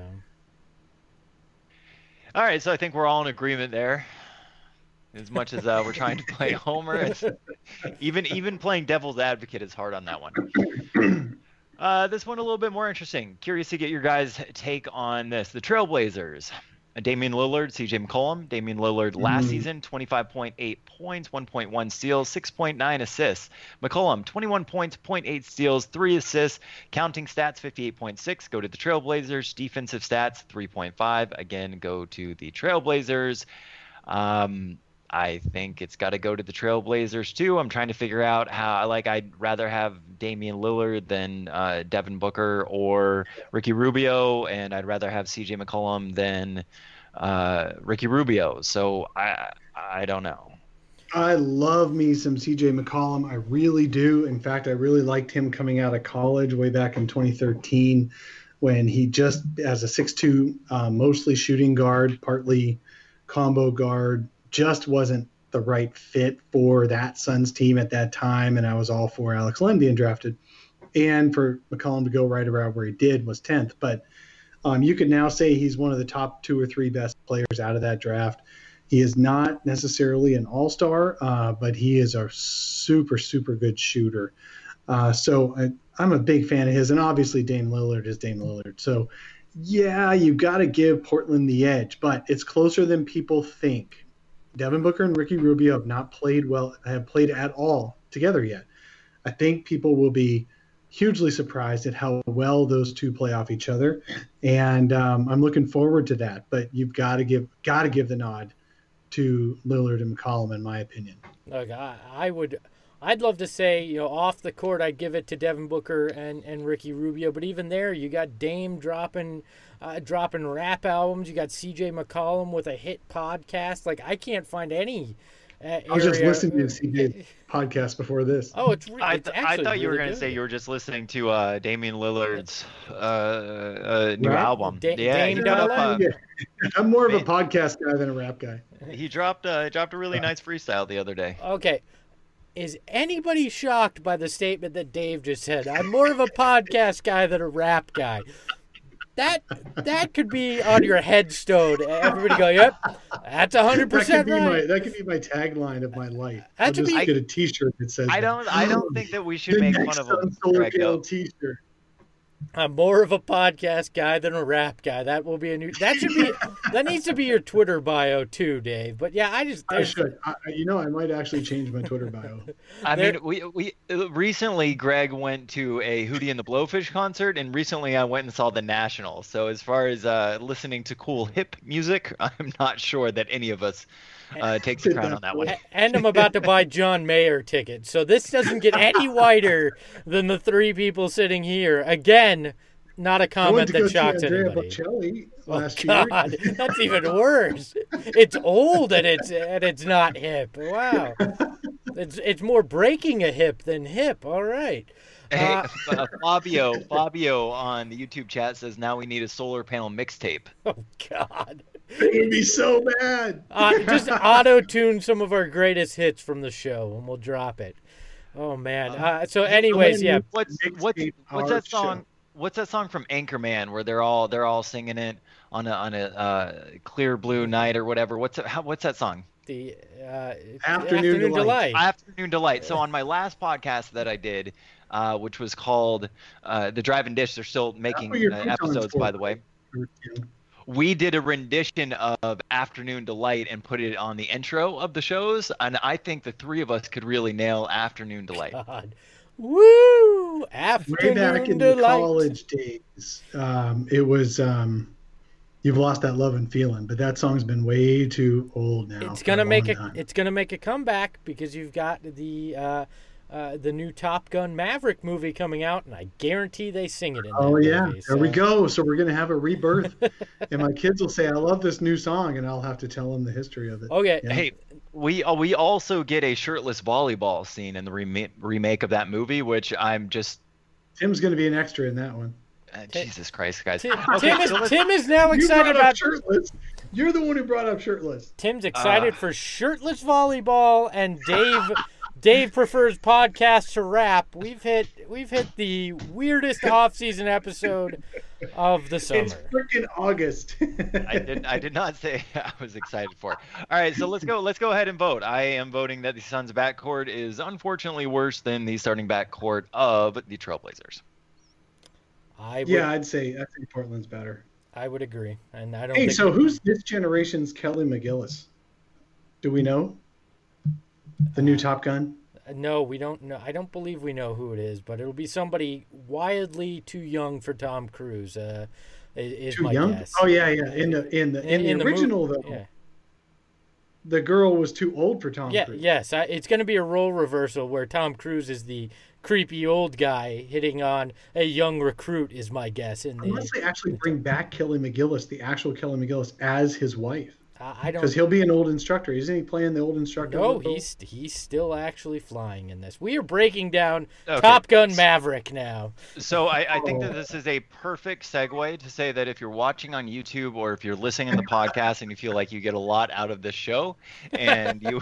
All right, so I think we're all in agreement there. As much as we're trying to play Homer, even playing devil's advocate is hard on that one. This one a little bit more interesting. Curious to get your guys' take on this. The Trailblazers. Damian Lillard, CJ McCollum. Damian Lillard last season, 25.8 points, 1.1 steals, 6.9 assists. McCollum, 21 points, 0.8 steals, 3 assists. Counting stats, 58.6. Go to the Trailblazers. Defensive stats, 3.5. Again, go to the Trailblazers. I think it's got to go to the Trailblazers too. I'm trying to figure out how. I'd rather have Damian Lillard than Devin Booker or Ricky Rubio, and I'd rather have CJ McCollum than Ricky Rubio. So I don't know. I love me some CJ McCollum. I really do. In fact, I really liked him coming out of college way back in 2013 when he just, as a 6'2", mostly shooting guard, partly combo guard, just wasn't the right fit for that Suns team at that time, and I was all for Alex Len being drafted. And for McCollum to go right around where he did was 10th. But you could now say he's one of the top 2 or 3 best players out of that draft. He is not necessarily an all-star, but he is a super, super good shooter. So I'm a big fan of his, and obviously Dame Lillard is Dame Lillard. So, yeah, you got to give Portland the edge, but it's closer than people think. Devin Booker and Ricky Rubio have not played at all together yet. I think people will be hugely surprised at how well those two play off each other, and I'm looking forward to that. But you've got to give the nod to Lillard and McCollum, in my opinion. Look, I'd love to say, off the court, I'd give it to Devin Booker and Ricky Rubio, but even there, you got Dame dropping rap albums. You got CJ McCollum with a hit podcast. I can't find any. I was just listening to CJ's podcast before this. Oh, I thought you were going to say you were just listening to Damian Lillard's new album. Dame I'm more of a podcast guy than a rap guy. He dropped a really nice freestyle the other day. Okay. Is anybody shocked by the statement that Dave just said? I'm more of a podcast guy than a rap guy. That could be on your headstone. Everybody go, yep, that's 100% right. That could be my tagline of my life. That I'll just get a T-shirt that says. I don't think that we should make fun of him. Solar panel T-shirt. I'm more of a podcast guy than a rap guy. That will be a new. That needs to be your Twitter bio too, Dave. But yeah, I should. I might actually change my Twitter bio. I mean, we recently Greg went to a Hootie and the Blowfish concert, and recently I went and saw the National. So as far as listening to cool hip music, I'm not sure that any of us takes the crown on that one. And I'm about to buy John Mayer tickets. So this doesn't get any whiter than the 3 people sitting here. Again, not a comment that shocks anybody. Last year. That's even worse. It's old and it's not hip. Wow. It's more breaking a hip than hip. All right. Hey, Fabio on the YouTube chat says now we need a solar panel mixtape. Oh God. It would be so bad. Just auto-tune some of our greatest hits from the show, and we'll drop it. Oh man. So, anyways, yeah. What's that song? Show. What's that song from Anchorman where they're all singing it on a clear blue night or whatever? What's that song? The Afternoon Delight. Afternoon Delight. So on my last podcast that I did, which was called The Drive and Dish, they're still making episodes, by the way. We did a rendition of Afternoon Delight and put it on the intro of the shows, and I think the 3 of us could really nail Afternoon Delight. God. Woo! Afternoon Way back in Delight. The college days, it was You've Lost That Love and Feeling, but that song's been way too old now. It's gonna make a comeback because you've got the the new Top Gun Maverick movie coming out, and I guarantee they sing it in that Oh yeah, movie. there we go. So we're gonna have a rebirth, and my kids will say, "I love this new song," and I'll have to tell them the history of it. Okay. Yeah. Hey, we also get a shirtless volleyball scene in the remake of that movie, which I'm just Tim's gonna be an extra in that one. Jesus Christ, guys. Tim, Okay, Tim is now You excited brought up about. shirtless. You're the one who brought up shirtless. Tim's excited for shirtless volleyball, and Dave prefers podcasts to rap. We've hit the weirdest off-season episode of the summer. It's freaking August. I did not say I was excited for it. All right, so let's go ahead and vote. I am voting that the Suns backcourt is unfortunately worse than the starting backcourt of the Trailblazers. I'd say Portland's better. I would agree, and I don't. Hey, think so who's this generation's Kelly McGillis? Do we know? The new Top Gun? No, we don't know. I don't believe we know who it is, but it'll be somebody wildly too young for Tom Cruise. Is Too my young? guess. Oh yeah. In the original movie, though, yeah. the girl was too old for Tom Yeah, Cruise. yes. It's going to be a role reversal where Tom Cruise is the creepy old guy hitting on a young recruit, is my guess. Unless they actually bring back Kelly McGillis, the actual Kelly McGillis, as his wife. I don't. Because he'll be an old instructor. Isn't he playing the old instructor? No, he's still actually flying in this. We are breaking down Okay. Top Gun Maverick now. So I think that this is a perfect segue to say that if you're watching on YouTube or if you're listening in the podcast and you feel like you get a lot out of this show and you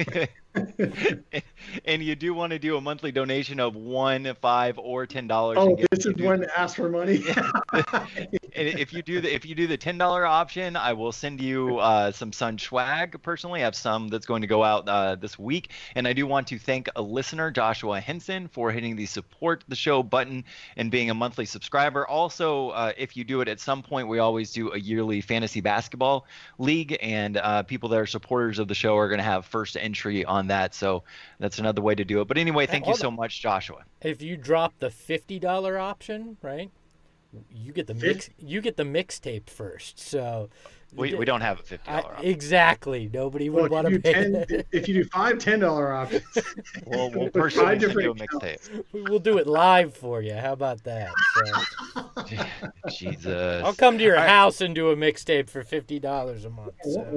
and you do want to do a monthly donation of $1, $5, or $10. Oh, this is when to ask for money. If you do the $10 option, I will send you some Sun swag. Personally, I have some that's going to go out this week, and I do want to thank a listener, Joshua Henson, for hitting the support the show button and being a monthly subscriber. Also, if you do it at some point, we always do a yearly fantasy basketball league, and people that are supporters of the show are going to have first entry on that. So that's another way to do it. But anyway, thank you so much, Joshua. If you drop the $50 option, right? You get the mix. You get the mixtape first. So we don't have a $50 option. Exactly. Nobody would want to pay. If you do $10 options, we'll personally send you a mixtape. We'll do it live for you. How about that? So, Jesus. I'll come to your house and do a mixtape for $50 a month.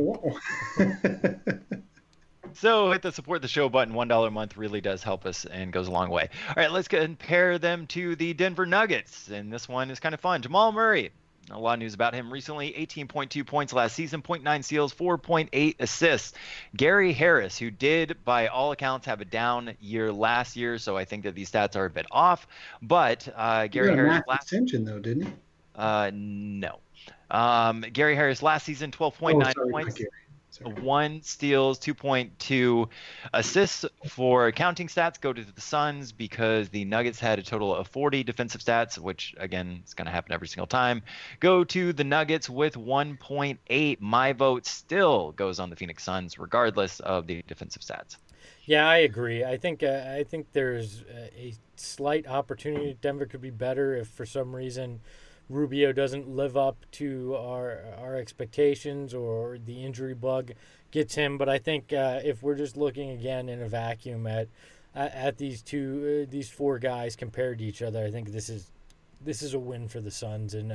So. So hit the support the show button. $1 a month really does help us and goes a long way. All right, let's compare them to the Denver Nuggets. And this one is kind of fun. Jamal Murray. A lot of news about him recently. 18.2 points last season, 0.9 steals, 4.8 assists. Gary Harris, who did, by all accounts, have a down year last year, so I think that these stats are a bit off. But Gary Harris last extension though, didn't he? No. Gary Harris last season, 12.9 points. 1 steals, 2.2 assists. For accounting stats, go to the Suns because the Nuggets had a total of 40 defensive stats, which, again, is going to happen every single time. Go to the Nuggets with 1.8. My vote still goes on the Phoenix Suns, regardless of the defensive stats. Yeah, I agree. I think there's a slight opportunity. Denver could be better if, for some reason, Rubio doesn't live up to our expectations or the injury bug gets him. But I think if we're just looking again in a vacuum at these four guys compared to each other, I think this is a win for the Suns in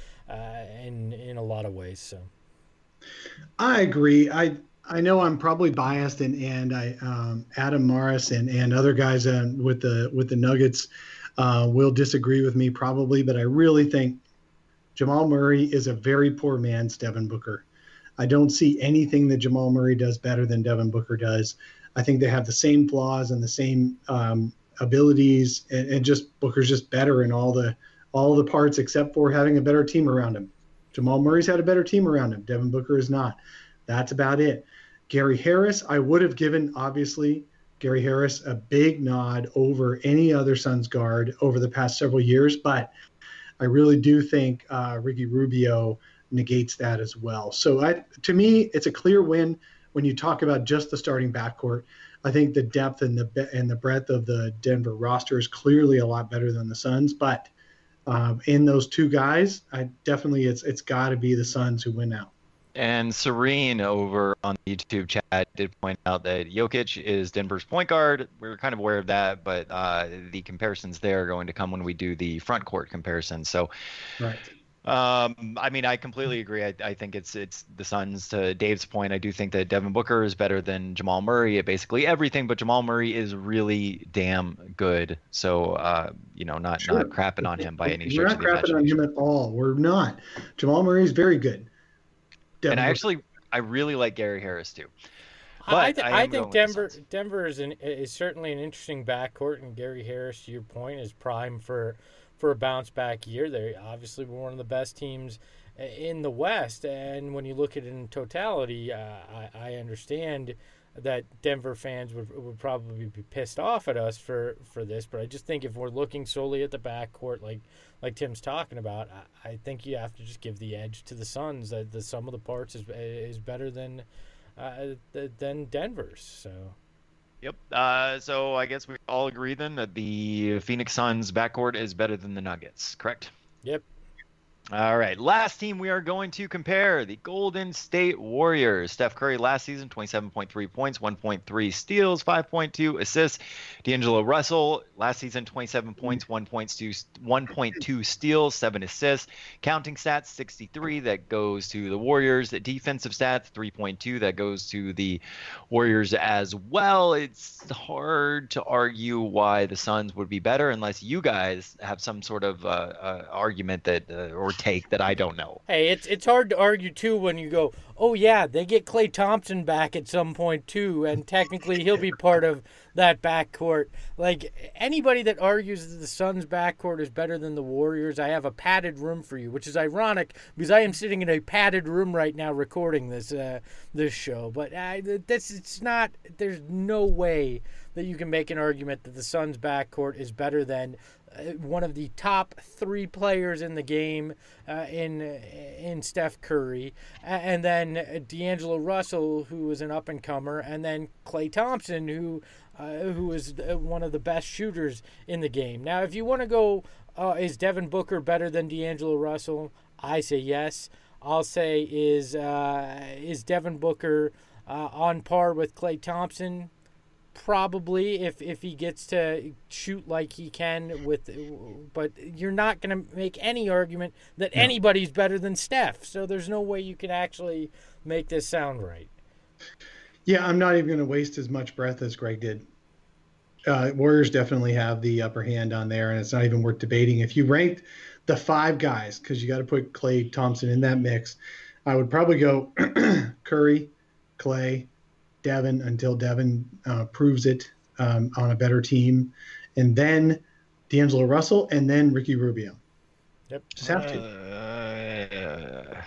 a lot of ways. So I agree. I know I'm probably biased, and I Adam Morris and other guys with the Nuggets will disagree with me probably, but I really think Jamal Murray is a very poor man's Devin Booker. I don't see anything that Jamal Murray does better than Devin Booker does. I think they have the same flaws and the same abilities, and just Booker's just better in all the parts except for having a better team around him. Jamal Murray's had a better team around him. Devin Booker is not. That's about it. Gary Harris, I would have given, obviously, Gary Harris a big nod over any other Suns guard over the past several years, but I really do think Ricky Rubio negates that as well. So to me, it's a clear win when you talk about just the starting backcourt. I think the depth and the breadth of the Denver roster is clearly a lot better than the Suns, but in those two guys, it's got to be the Suns who win out. And Serene over on the YouTube chat did point out that Jokic is Denver's point guard. We were kind of aware of that, but the comparisons there are going to come when we do the front court comparison. So, Right. I mean, I completely agree. I think it's the Suns. To Dave's point, I do think that Devin Booker is better than Jamal Murray at basically everything, but Jamal Murray is really damn good. So, not crapping on him by any stretch of the imagination. We're not crapping on him at all. We're not. Jamal Murray is very good. And I really like Gary Harris too. But I think Denver is certainly an interesting backcourt, and Gary Harris, to your point, is prime for a bounce back year. They obviously were one of the best teams in the West, and when you look at it in totality, I understand that Denver fans would probably be pissed off at us for this, but I just think if we're looking solely at the backcourt, like Tim's talking about, I think you have to just give the edge to the Suns. That the sum of the parts is better than Denver's. So. Yep. So I guess we all agree then that the Phoenix Suns backcourt is better than the Nuggets, correct? Yep. All right. Last team we are going to compare, the Golden State Warriors. Steph Curry last season, 27.3 points, 1.3 steals, 5.2 assists. D'Angelo Russell last season, 27 points, 1.2 steals, 7 assists. Counting stats, 63. That goes to the Warriors. The defensive stats, 3.2. That goes to the Warriors as well. It's hard to argue why the Suns would be better unless you guys have some sort of argument that or take that I don't know. Hey, it's hard to argue too when you go, oh yeah, they get Klay Thompson back at some point too, and technically he'll be part of that backcourt. Like, anybody that argues that the Suns backcourt is better than the Warriors, I have a padded room for you, which is ironic because I am sitting in a padded room right now recording this show. But there's no way that you can make an argument that the Suns backcourt is better than one of the top 3 players in the game in Steph Curry, and then D'Angelo Russell, who is an up-and-comer, and then Klay Thompson, who is one of the best shooters in the game. Now, if you want to go, is Devin Booker better than D'Angelo Russell? I say yes. I'll say is Devin Booker on par with Klay Thompson? Probably, if he gets to shoot like he can but you're not going to make any argument that anybody's better than Steph. So there's no way you can actually make this sound right. Yeah, I'm not even going to waste as much breath as Greg did. Warriors definitely have the upper hand on there, and it's not even worth debating. If you ranked the 5 guys, because you got to put Klay Thompson in that mix, I would probably go Curry, Klay, Devin until Devin proves it on a better team, and then D'Angelo Russell, and then Ricky Rubio. Yep. Just have to.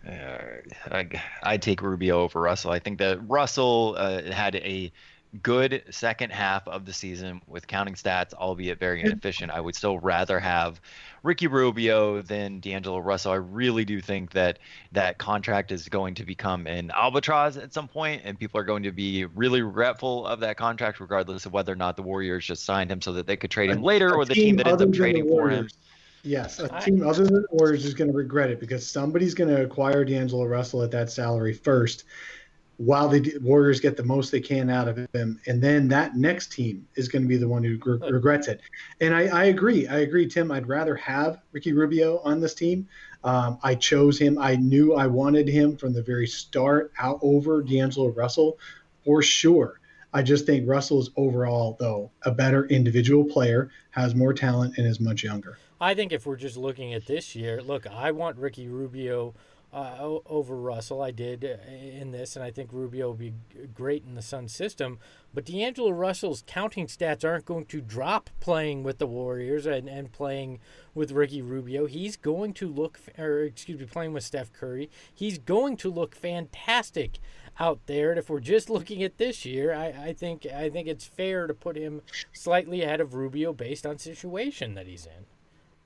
I'd take Rubio over Russell. I think that Russell had a good second half of the season with counting stats, albeit very inefficient. I would still rather have Ricky Rubio than D'Angelo Russell. I really do think that contract is going to become an albatross at some point, and people are going to be really regretful of that contract, regardless of whether or not the Warriors just signed him so that they could trade him later, or the team that ends up trading for him. Yes, a team other than the Warriors is going to regret it because somebody's going to acquire D'Angelo Russell at that salary first, while the Warriors get the most they can out of him. And then that next team is going to be the one who regrets it. And I agree, Tim. I'd rather have Ricky Rubio on this team. I chose him. I knew I wanted him from the very start out over D'Angelo Russell for sure. I just think Russell is overall, though, a better individual player, has more talent, and is much younger. I think if we're just looking at this year, look, I want Ricky Rubio over Russell. I did in this, and I think Rubio will be great in the Suns system. But D'Angelo Russell's counting stats aren't going to drop playing with the Warriors and playing with Ricky Rubio. He's going to playing with Steph Curry. He's going to look fantastic out there. And if we're just looking at this year, I think it's fair to put him slightly ahead of Rubio based on situation that he's in.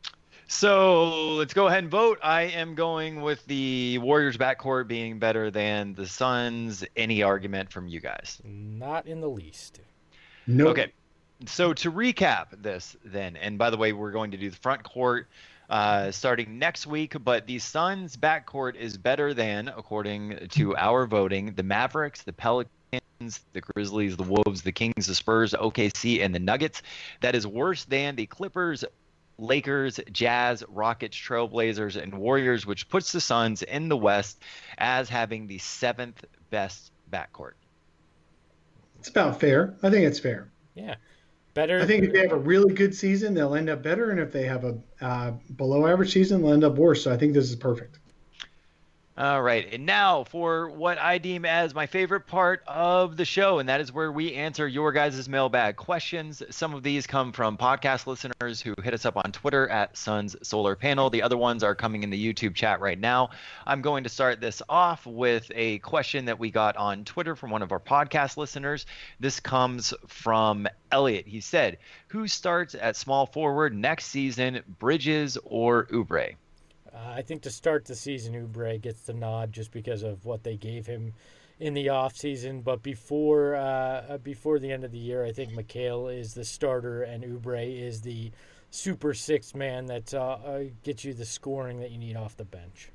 So let's go ahead and vote. I am going with the Warriors backcourt being better than the Suns. Any argument from you guys? Not in the least. No. Okay. So to recap this then, and by the way, we're going to do the front court starting next week. But the Suns backcourt is better than, according to our voting, the Mavericks, the Pelicans, the Grizzlies, the Wolves, the Kings, the Spurs, OKC, and the Nuggets. That is worse than the Clippers, Lakers, Jazz, Rockets, Trailblazers, and Warriors, which puts the Suns in the West as having the 7th best backcourt. It's about fair. I think it's fair. Yeah. Better. I think if they have a really good season, they'll end up better. And if they have a below average season, they'll end up worse. So I think this is perfect. All right. And now for what I deem as my favorite part of the show, and that is where we answer your guys' mailbag questions. Some of these come from podcast listeners who hit us up on Twitter at Suns Solar Panel. The other ones are coming in the YouTube chat right now. I'm going to start this off with a question that we got on Twitter from one of our podcast listeners. This comes from Elliot. He said, who starts at small forward next season, Bridges or Oubre? I think to start the season, Oubre gets the nod just because of what they gave him in the offseason. But before the end of the year, I think Mikal is the starter and Oubre is the super sixth man that gets you the scoring that you need off the bench.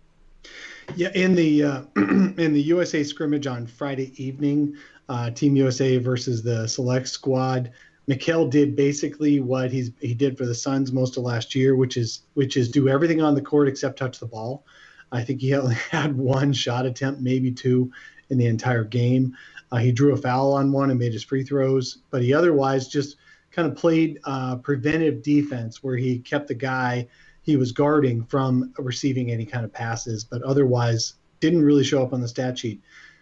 Yeah, in the in the USA scrimmage on Friday evening, Team USA versus the select squad, Mikal did basically what he did for the Suns most of last year, which is do everything on the court except touch the ball. I think he only had one shot attempt, maybe two, in the entire game. He drew a foul on one and made his free throws, but he otherwise just kind of played preventive defense where he kept the guy he was guarding from receiving any kind of passes, but otherwise didn't really show up on the stat sheet.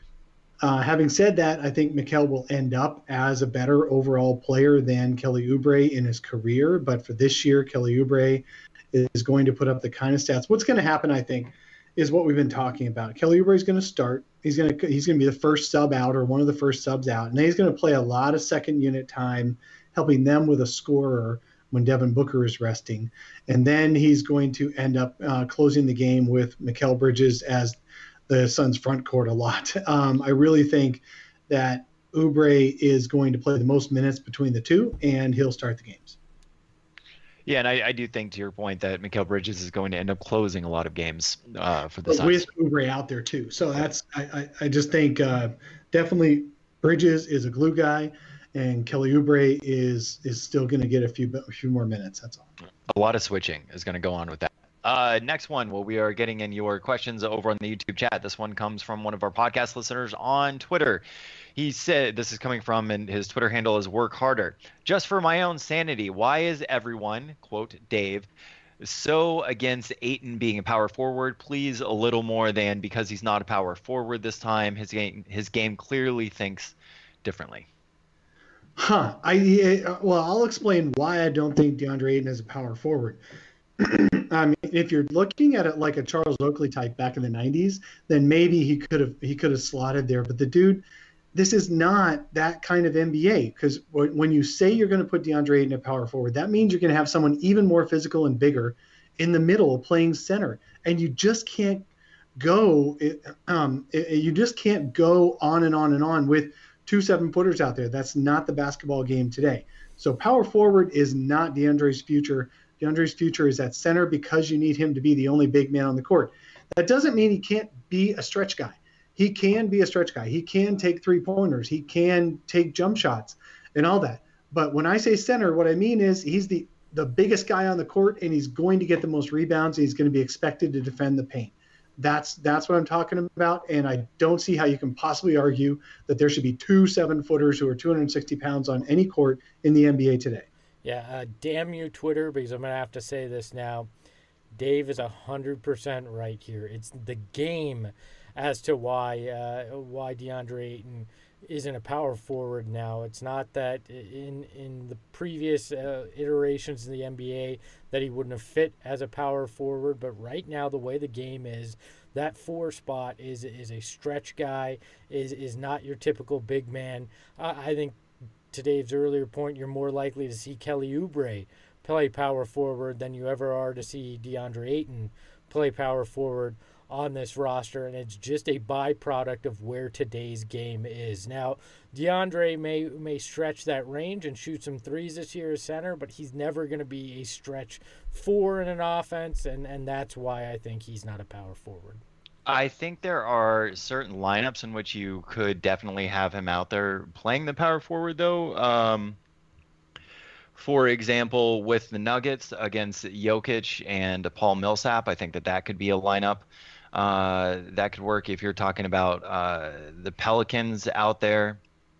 Having said that, I think Mikal will end up as a better overall player than Kelly Oubre in his career. But for this year, Kelly Oubre is going to put up the kind of stats. What's going to happen, I think, is what we've been talking about. Kelly Oubre is going to start. He's going to be the first sub out or one of the first subs out. And then he's going to play a lot of second unit time, helping them with a scorer when Devin Booker is resting. And then he's going to end up closing the game with Mikal Bridges as the Suns front court a lot. I really think that Oubre is going to play the most minutes between the two, and he'll start the games. Yeah, and I do think, to your point, that Mikal Bridges is going to end up closing a lot of games for the Suns. With Oubre out there, too. So that's I just think definitely Bridges is a glue guy, and Kelly Oubre is still going to get a few more minutes. That's all. A lot of switching is going to go on with that. Next one, well, we are getting in your questions over on the YouTube chat. This one comes from one of our podcast listeners on Twitter. He said, this is coming from, and his Twitter handle is Work Harder. Just for my own sanity, why is everyone, quote, Dave, so against Ayton being a power forward? Please, a little more than because he's not a power forward this time. His game clearly thinks differently. I'll explain why I don't think DeAndre Ayton is a power forward. I mean, if you're looking at it like a Charles Oakley type back in the 90s, then maybe he could have slotted there. But the dude, this is not that kind of NBA, because when you say you're going to put DeAndre Ayton at power forward, that means you're going to have someone even more physical and bigger in the middle playing center, and you just can't go. You just can't go on and on and on with 2 7-footers out there. That's not the basketball game today. So power forward is not DeAndre's future. DeAndre's future is at center because you need him to be the only big man on the court. That doesn't mean he can't be a stretch guy. He can be a stretch guy. He can take 3-pointers. He can take jump shots and all that. But when I say center, what I mean is he's the biggest guy on the court, and he's going to get the most rebounds. And he's going to be expected to defend the paint. That's what I'm talking about, and I don't see how you can possibly argue that there should be 2 7-footers who are 260 pounds on any court in the NBA today. Yeah, damn you, Twitter, because I'm going to have to say this now. Dave is 100% right here. It's the game as to why DeAndre Ayton isn't a power forward now. It's not that in the previous iterations in the NBA that he wouldn't have fit as a power forward, but right now the way the game is, that 4 spot is a stretch guy, is not your typical big man. I think to Dave's earlier point, you're more likely to see Kelly Oubre play power forward than you ever are to see DeAndre Ayton play power forward on this roster, and it's just a byproduct of where today's game is. Now, DeAndre may stretch that range and shoot some threes this year as center, but he's never going to be a stretch four in an offense, and that's why I think he's not a power forward. I think there are certain lineups in which you could definitely have him out there playing the power forward, though. For example, with the Nuggets against Jokic and Paul Millsap, I think that could be a lineup that could work. If you're talking about the Pelicans out there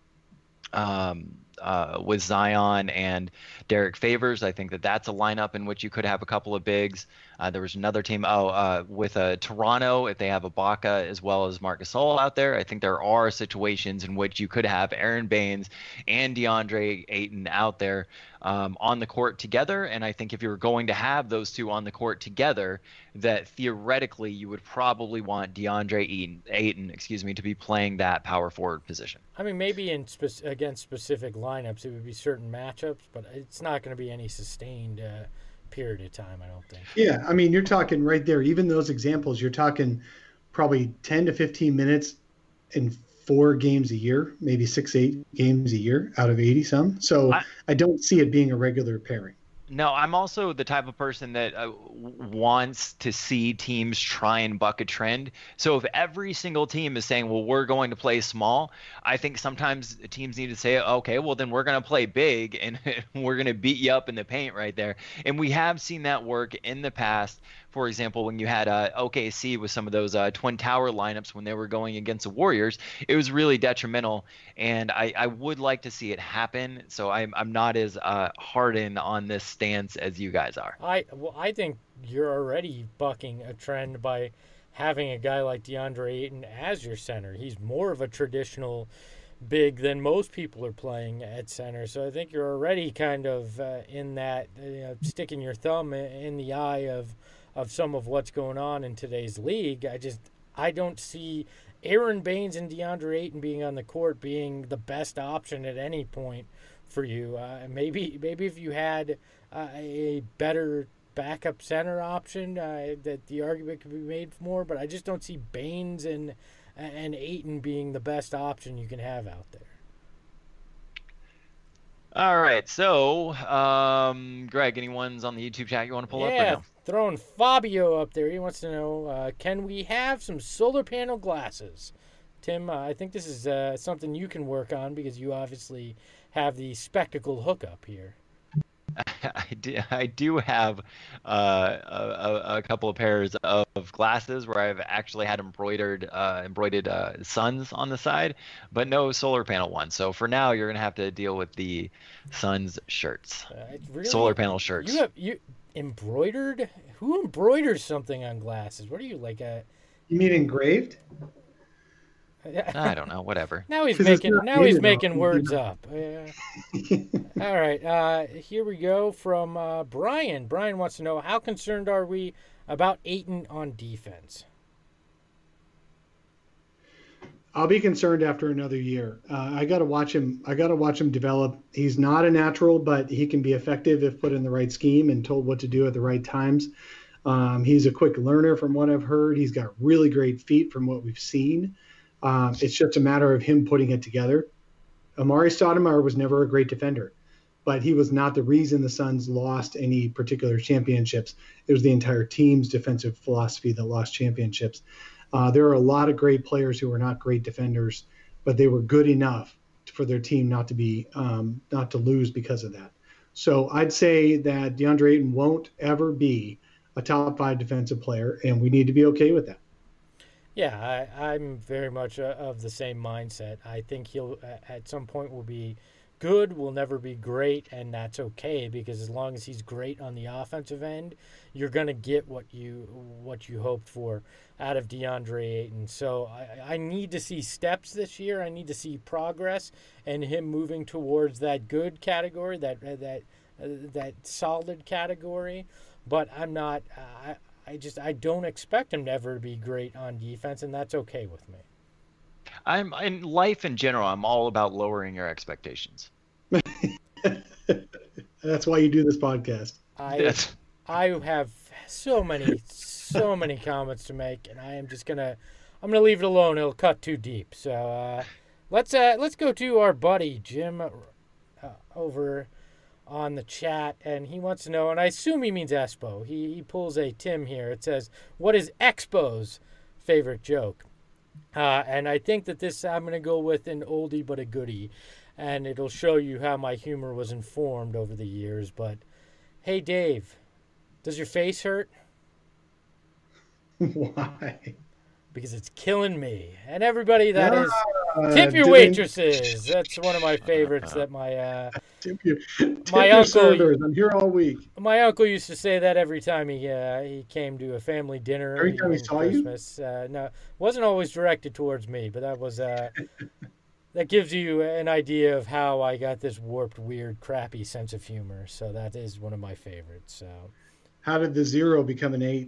with Zion and Derek Favors, I think that that's a lineup in which you could have a couple of bigs. There was another team with Toronto, if they have Ibaka as well as Marc Gasol out there. I think there are situations in which you could have Aaron Baines and DeAndre Ayton out there on the court together. And I think if you're going to have those two on the court together, that theoretically you would probably want DeAndre Ayton, to be playing that power forward position. I mean, maybe against specific lineups, it would be certain matchups, but it's not going to be any sustained period of time, I don't think. Yeah, I mean, you're talking right there. Even those examples, you're talking probably 10 to 15 minutes in 4 games a year, maybe 6-8 games a year out of 80 some. So I don't see it being a regular pairing. No, I'm also the type of person that wants to see teams try and buck a trend. So if every single team is saying, well, we're going to play small, I think sometimes teams need to say, okay, well, then we're going to play big and we're going to beat you up in the paint right there. And we have seen that work in the past. For example, when you had OKC with some of those Twin Tower lineups when they were going against the Warriors, it was really detrimental. And I would like to see it happen. So I'm not as hardened on this stance as you guys are. I think you're already bucking a trend by having a guy like DeAndre Ayton as your center. He's more of a traditional big than most people are playing at center. So I think you're already kind of in that, sticking your thumb in the eye of some of what's going on in today's league. I don't see Aaron Baines and DeAndre Ayton being on the court being the best option at any point for you. Maybe if you had a better backup center option, that the argument could be made more, but I just don't see Baines and Ayton being the best option you can have out there. All right, so Greg, any ones on the YouTube chat you want to pull up? Or no? Throwing Fabio up there. He wants to know, can we have some solar panel glasses? Tim, I think this is something you can work on because you obviously have the spectacle hookup here. I do have a couple of pairs of glasses where I've actually had embroidered suns on the side, but no solar panel ones. So for now, you're gonna have to deal with the Suns shirts, really? Solar panel shirts. You embroidered? Who embroiders something on glasses? What are you, like a? You mean engraved? I don't know. Whatever. Now he's making words up. All right. Here we go from Brian. Brian wants to know, how concerned are we about Ayton on defense? I'll be concerned after another year. I got to watch him. I got to watch him develop. He's not a natural, but he can be effective if put in the right scheme and told what to do at the right times. He's a quick learner from what I've heard. He's got really great feet from what we've seen. It's just a matter of him putting it together. Amari Stoudemire was never a great defender, but he was not the reason the Suns lost any particular championships. It was the entire team's defensive philosophy that lost championships. There are a lot of great players who are not great defenders, but they were good enough for their team not to lose because of that. So I'd say that DeAndre Ayton won't ever be a top 5 defensive player, and we need to be okay with that. Yeah, I'm very much of the same mindset. I think he'll at some point will be good, will never be great, and that's okay, because as long as he's great on the offensive end, you're going to get what you hoped for out of DeAndre Ayton. So I need to see steps this year. I need to see progress and him moving towards that good category, that solid category. But I'm not. I don't expect him to ever be great on defense, and that's okay with me. I'm in life in general. I'm all about lowering your expectations. That's why you do this podcast. I have so many so many comments to make, and I'm gonna leave it alone. It'll cut too deep. So let's go to our buddy Jim over on the chat, and he wants to know, and I assume he means Espo. He pulls a Tim here. It says, "What is Expo's favorite joke?" And I think that this I'm gonna go with an oldie but a goodie, and it'll show you how my humor was informed over the years. But hey, Dave, does your face hurt? Why? Because it's killing me. And everybody, that is tip your didn't- waitresses. That's one of my favorites that my Tip your uncle- servers. I'm here all week. my uncle used to say that every time he came to a family dinner. Every time he on saw you? Christmas. No, wasn't always directed towards me, but that was that gives you an idea of how I got this warped, weird, crappy sense of humor. So that is one of my favorites. So How did the 0 become an 8?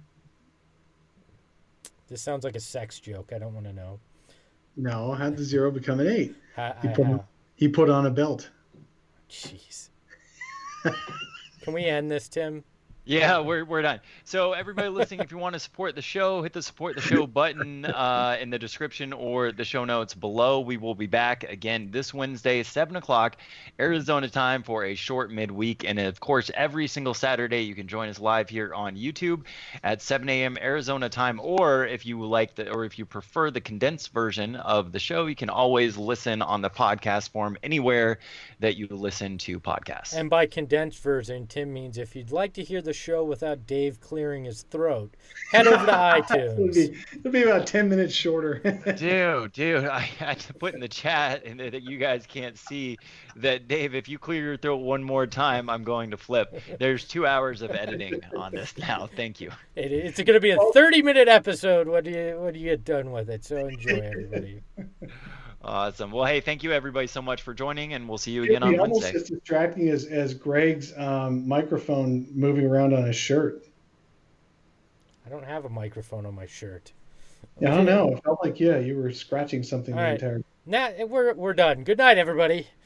this sounds like a sex joke. I don't want to know. No, how did the 0 become an 8? How? He put on a belt. Jeez. Can we end this, Tim? Yeah, we're done. So everybody listening, if you want to support the show, hit the support the show button in the description or the show notes below. We will be back again this Wednesday, 7 o'clock, Arizona time for a short midweek. And of course, every single Saturday, you can join us live here on YouTube at 7 a.m. Arizona time. Or if you if you prefer the condensed version of the show, you can always listen on the podcast form anywhere that you listen to podcasts. And by condensed version, Tim means if you'd like to hear the show without Dave clearing his throat, head over to iTunes. It'll be about 10 minutes shorter. Dude, I had to put in the chat and that you guys can't see that, Dave, if you clear your throat one more time, I'm going to flip. There's 2 hours of editing on this now. Thank you. It's going to be a 30-minute episode when you get done with it. So enjoy, everybody. Awesome. Well, hey, thank you everybody so much for joining, and we'll see you again on almost Wednesday. as distracting as Greg's microphone moving around on his shirt. I don't have a microphone on my shirt. Yeah, I don't know. It felt like you were scratching something All the right. entire. Now we're done. Good night, everybody.